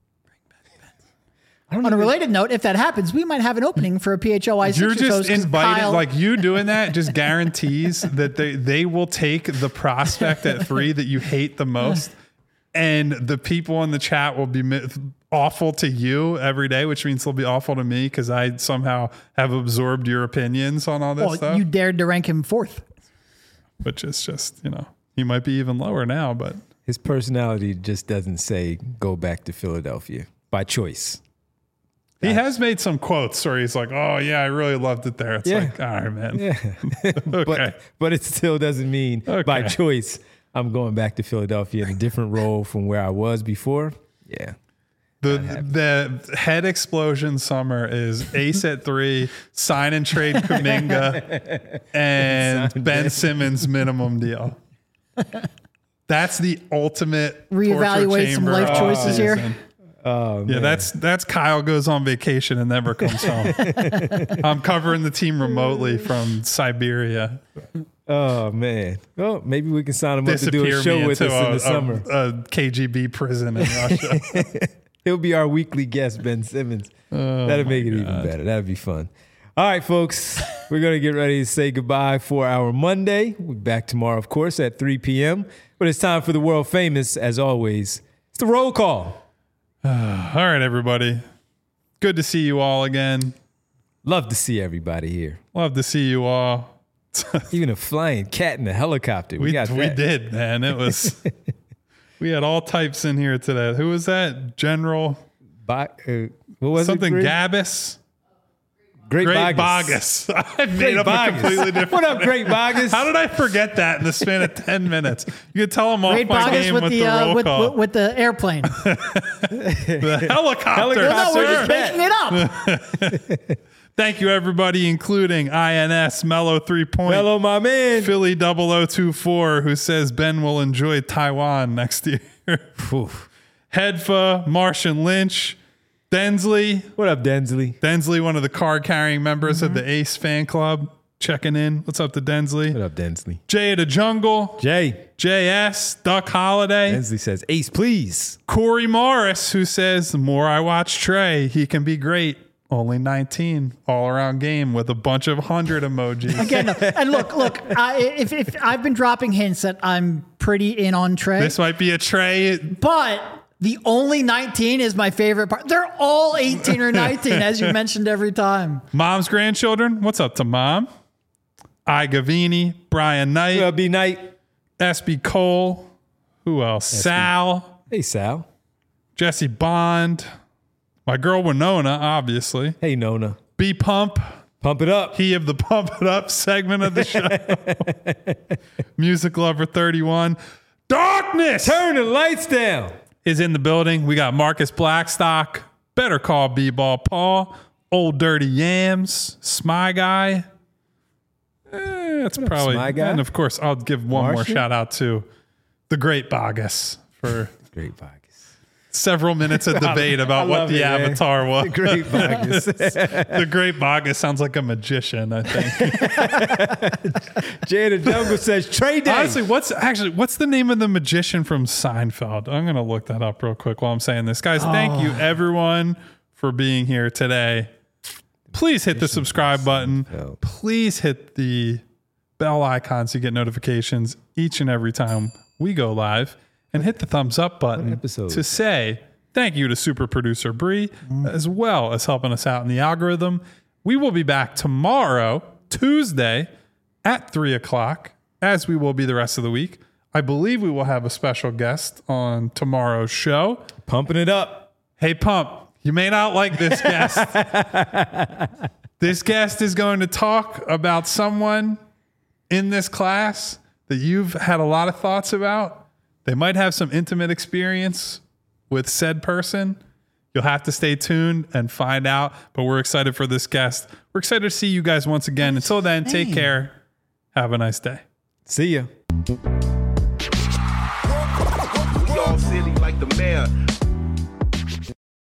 Speaker 3: Ben. On a related note, if that happens, we might have an opening for a PHLY.
Speaker 2: You're just invited, like you doing that just guarantees that they will take the prospect at 3 that you hate the most, and the people in the chat will be awful to you every day, which means they'll be awful to me because I somehow have absorbed your opinions on all this stuff.
Speaker 3: You dared to rank him 4th.
Speaker 2: Which is just, he might be even lower now, but
Speaker 1: his personality just doesn't say go back to Philadelphia by choice.
Speaker 2: He has made some quotes where he's like, oh, yeah, I really loved it there. It's like, all right, man.
Speaker 1: Yeah.
Speaker 2: Okay.
Speaker 1: But it still doesn't mean by choice I'm going back to Philadelphia in a different role from where I was before. Yeah.
Speaker 2: The head explosion summer is Ace at 3, sign and trade Kuminga, and Ben Simmons minimum deal. That's the ultimate
Speaker 3: reevaluate some life choices here.
Speaker 1: Oh,
Speaker 2: yeah,
Speaker 1: man.
Speaker 2: that's Kyle goes on vacation and never comes home. I'm covering the team remotely from Siberia.
Speaker 1: Oh man! Well, maybe we can sign him up to do a show with us in the summer.
Speaker 2: A KGB prison in Russia.
Speaker 1: He'll be our weekly guest, Ben Simmons. That'll make it even better. That'd be fun. All right, folks, we're going to get ready to say goodbye for our Monday. We'll be back tomorrow, of course, at 3 p.m. But it's time for the world famous, as always. It's the roll call.
Speaker 2: All right, everybody. Good to see you all again.
Speaker 1: Love to see everybody here.
Speaker 2: Love to see you all.
Speaker 1: Even a flying cat in a helicopter. We
Speaker 2: did, man. It was... We had all types in here today. Who was that? General...
Speaker 1: what was
Speaker 2: something
Speaker 1: it?
Speaker 2: Gabbis?
Speaker 1: Great
Speaker 2: Bogus. I made up a completely different...
Speaker 1: What up, Great Bogus?
Speaker 2: How did I forget that in the span of 10 minminutes? You could tell them off
Speaker 3: Great
Speaker 2: my
Speaker 3: Bogus
Speaker 2: game with the roll call.
Speaker 3: with the airplane.
Speaker 2: The helicopter.
Speaker 3: No, we're just making it up.
Speaker 2: Thank you, everybody, including INS, Mellow 3 Point.
Speaker 1: Mellow, my man.
Speaker 2: Philly 0024, who says Ben will enjoy Taiwan next year. Hedfa, Martian Lynch, Densley.
Speaker 1: What up, Densley?
Speaker 2: Densley, one of the card-carrying members of the Ace fan club, checking in. What's up to Densley?
Speaker 1: What up, Densley?
Speaker 2: Jay of the Jungle. JS, Duck Holiday.
Speaker 1: Densley says, Ace, please.
Speaker 2: Corey Morris, who says, the more I watch Trey, he can be great. Only 19, all-around game with a bunch of 100 emojis.
Speaker 3: Again, and look. If I've been dropping hints that I'm pretty in on Trey.
Speaker 2: This might be a Trey.
Speaker 3: But the only 19 is my favorite part. They're all 18 or 19, as you mentioned every time.
Speaker 2: Mom's grandchildren. What's up to Mom? I Gavini, Brian Knight.
Speaker 1: B Knight.
Speaker 2: SB Cole. Who else? SB. Sal.
Speaker 1: Hey, Sal.
Speaker 2: Jesse Bond. My girl Winona, obviously.
Speaker 1: Hey, Nona.
Speaker 2: B Pump.
Speaker 1: Pump it up.
Speaker 2: He of the Pump It Up segment of the show. Music Lover 31. Darkness!
Speaker 1: Turn the lights down.
Speaker 2: Is in the building. We got Marcus Blackstock. Better Call B-Ball Paul. Old Dirty Yams. Smy Guy. That's probably...
Speaker 1: Smy Guy?
Speaker 2: And of course, I'll give one more shout out to the Great Bogus for...
Speaker 1: Great Bogus.
Speaker 2: Several minutes of debate about what the avatar was.
Speaker 1: The Great Bogus.
Speaker 2: The Great Bogus sounds like a magician, I think.
Speaker 1: Jay the Jungle says Trey Day.
Speaker 2: Honestly, what's the name of the magician from Seinfeld? I'm going to look that up real quick while I'm saying this. Guys, thank you everyone for being here today. Please hit the subscribe button. Please hit the bell icon so you get notifications each and every time we go live. And hit the thumbs up button to say thank you to super producer Bree, as well as helping us out in the algorithm. We will be back tomorrow, Tuesday, at 3 o'clock, as we will be the rest of the week. I believe we will have a special guest on tomorrow's show.
Speaker 1: Pumping it up.
Speaker 2: Hey, Pump, you may not like this guest. This guest is going to talk about someone in this class that you've had a lot of thoughts about. They might have some intimate experience with said person. You'll have to stay tuned and find out, but we're excited for this guest. We're excited to see you guys once again. Until then, take care. Have a nice day.
Speaker 1: See ya.
Speaker 5: We all silly like the mayor.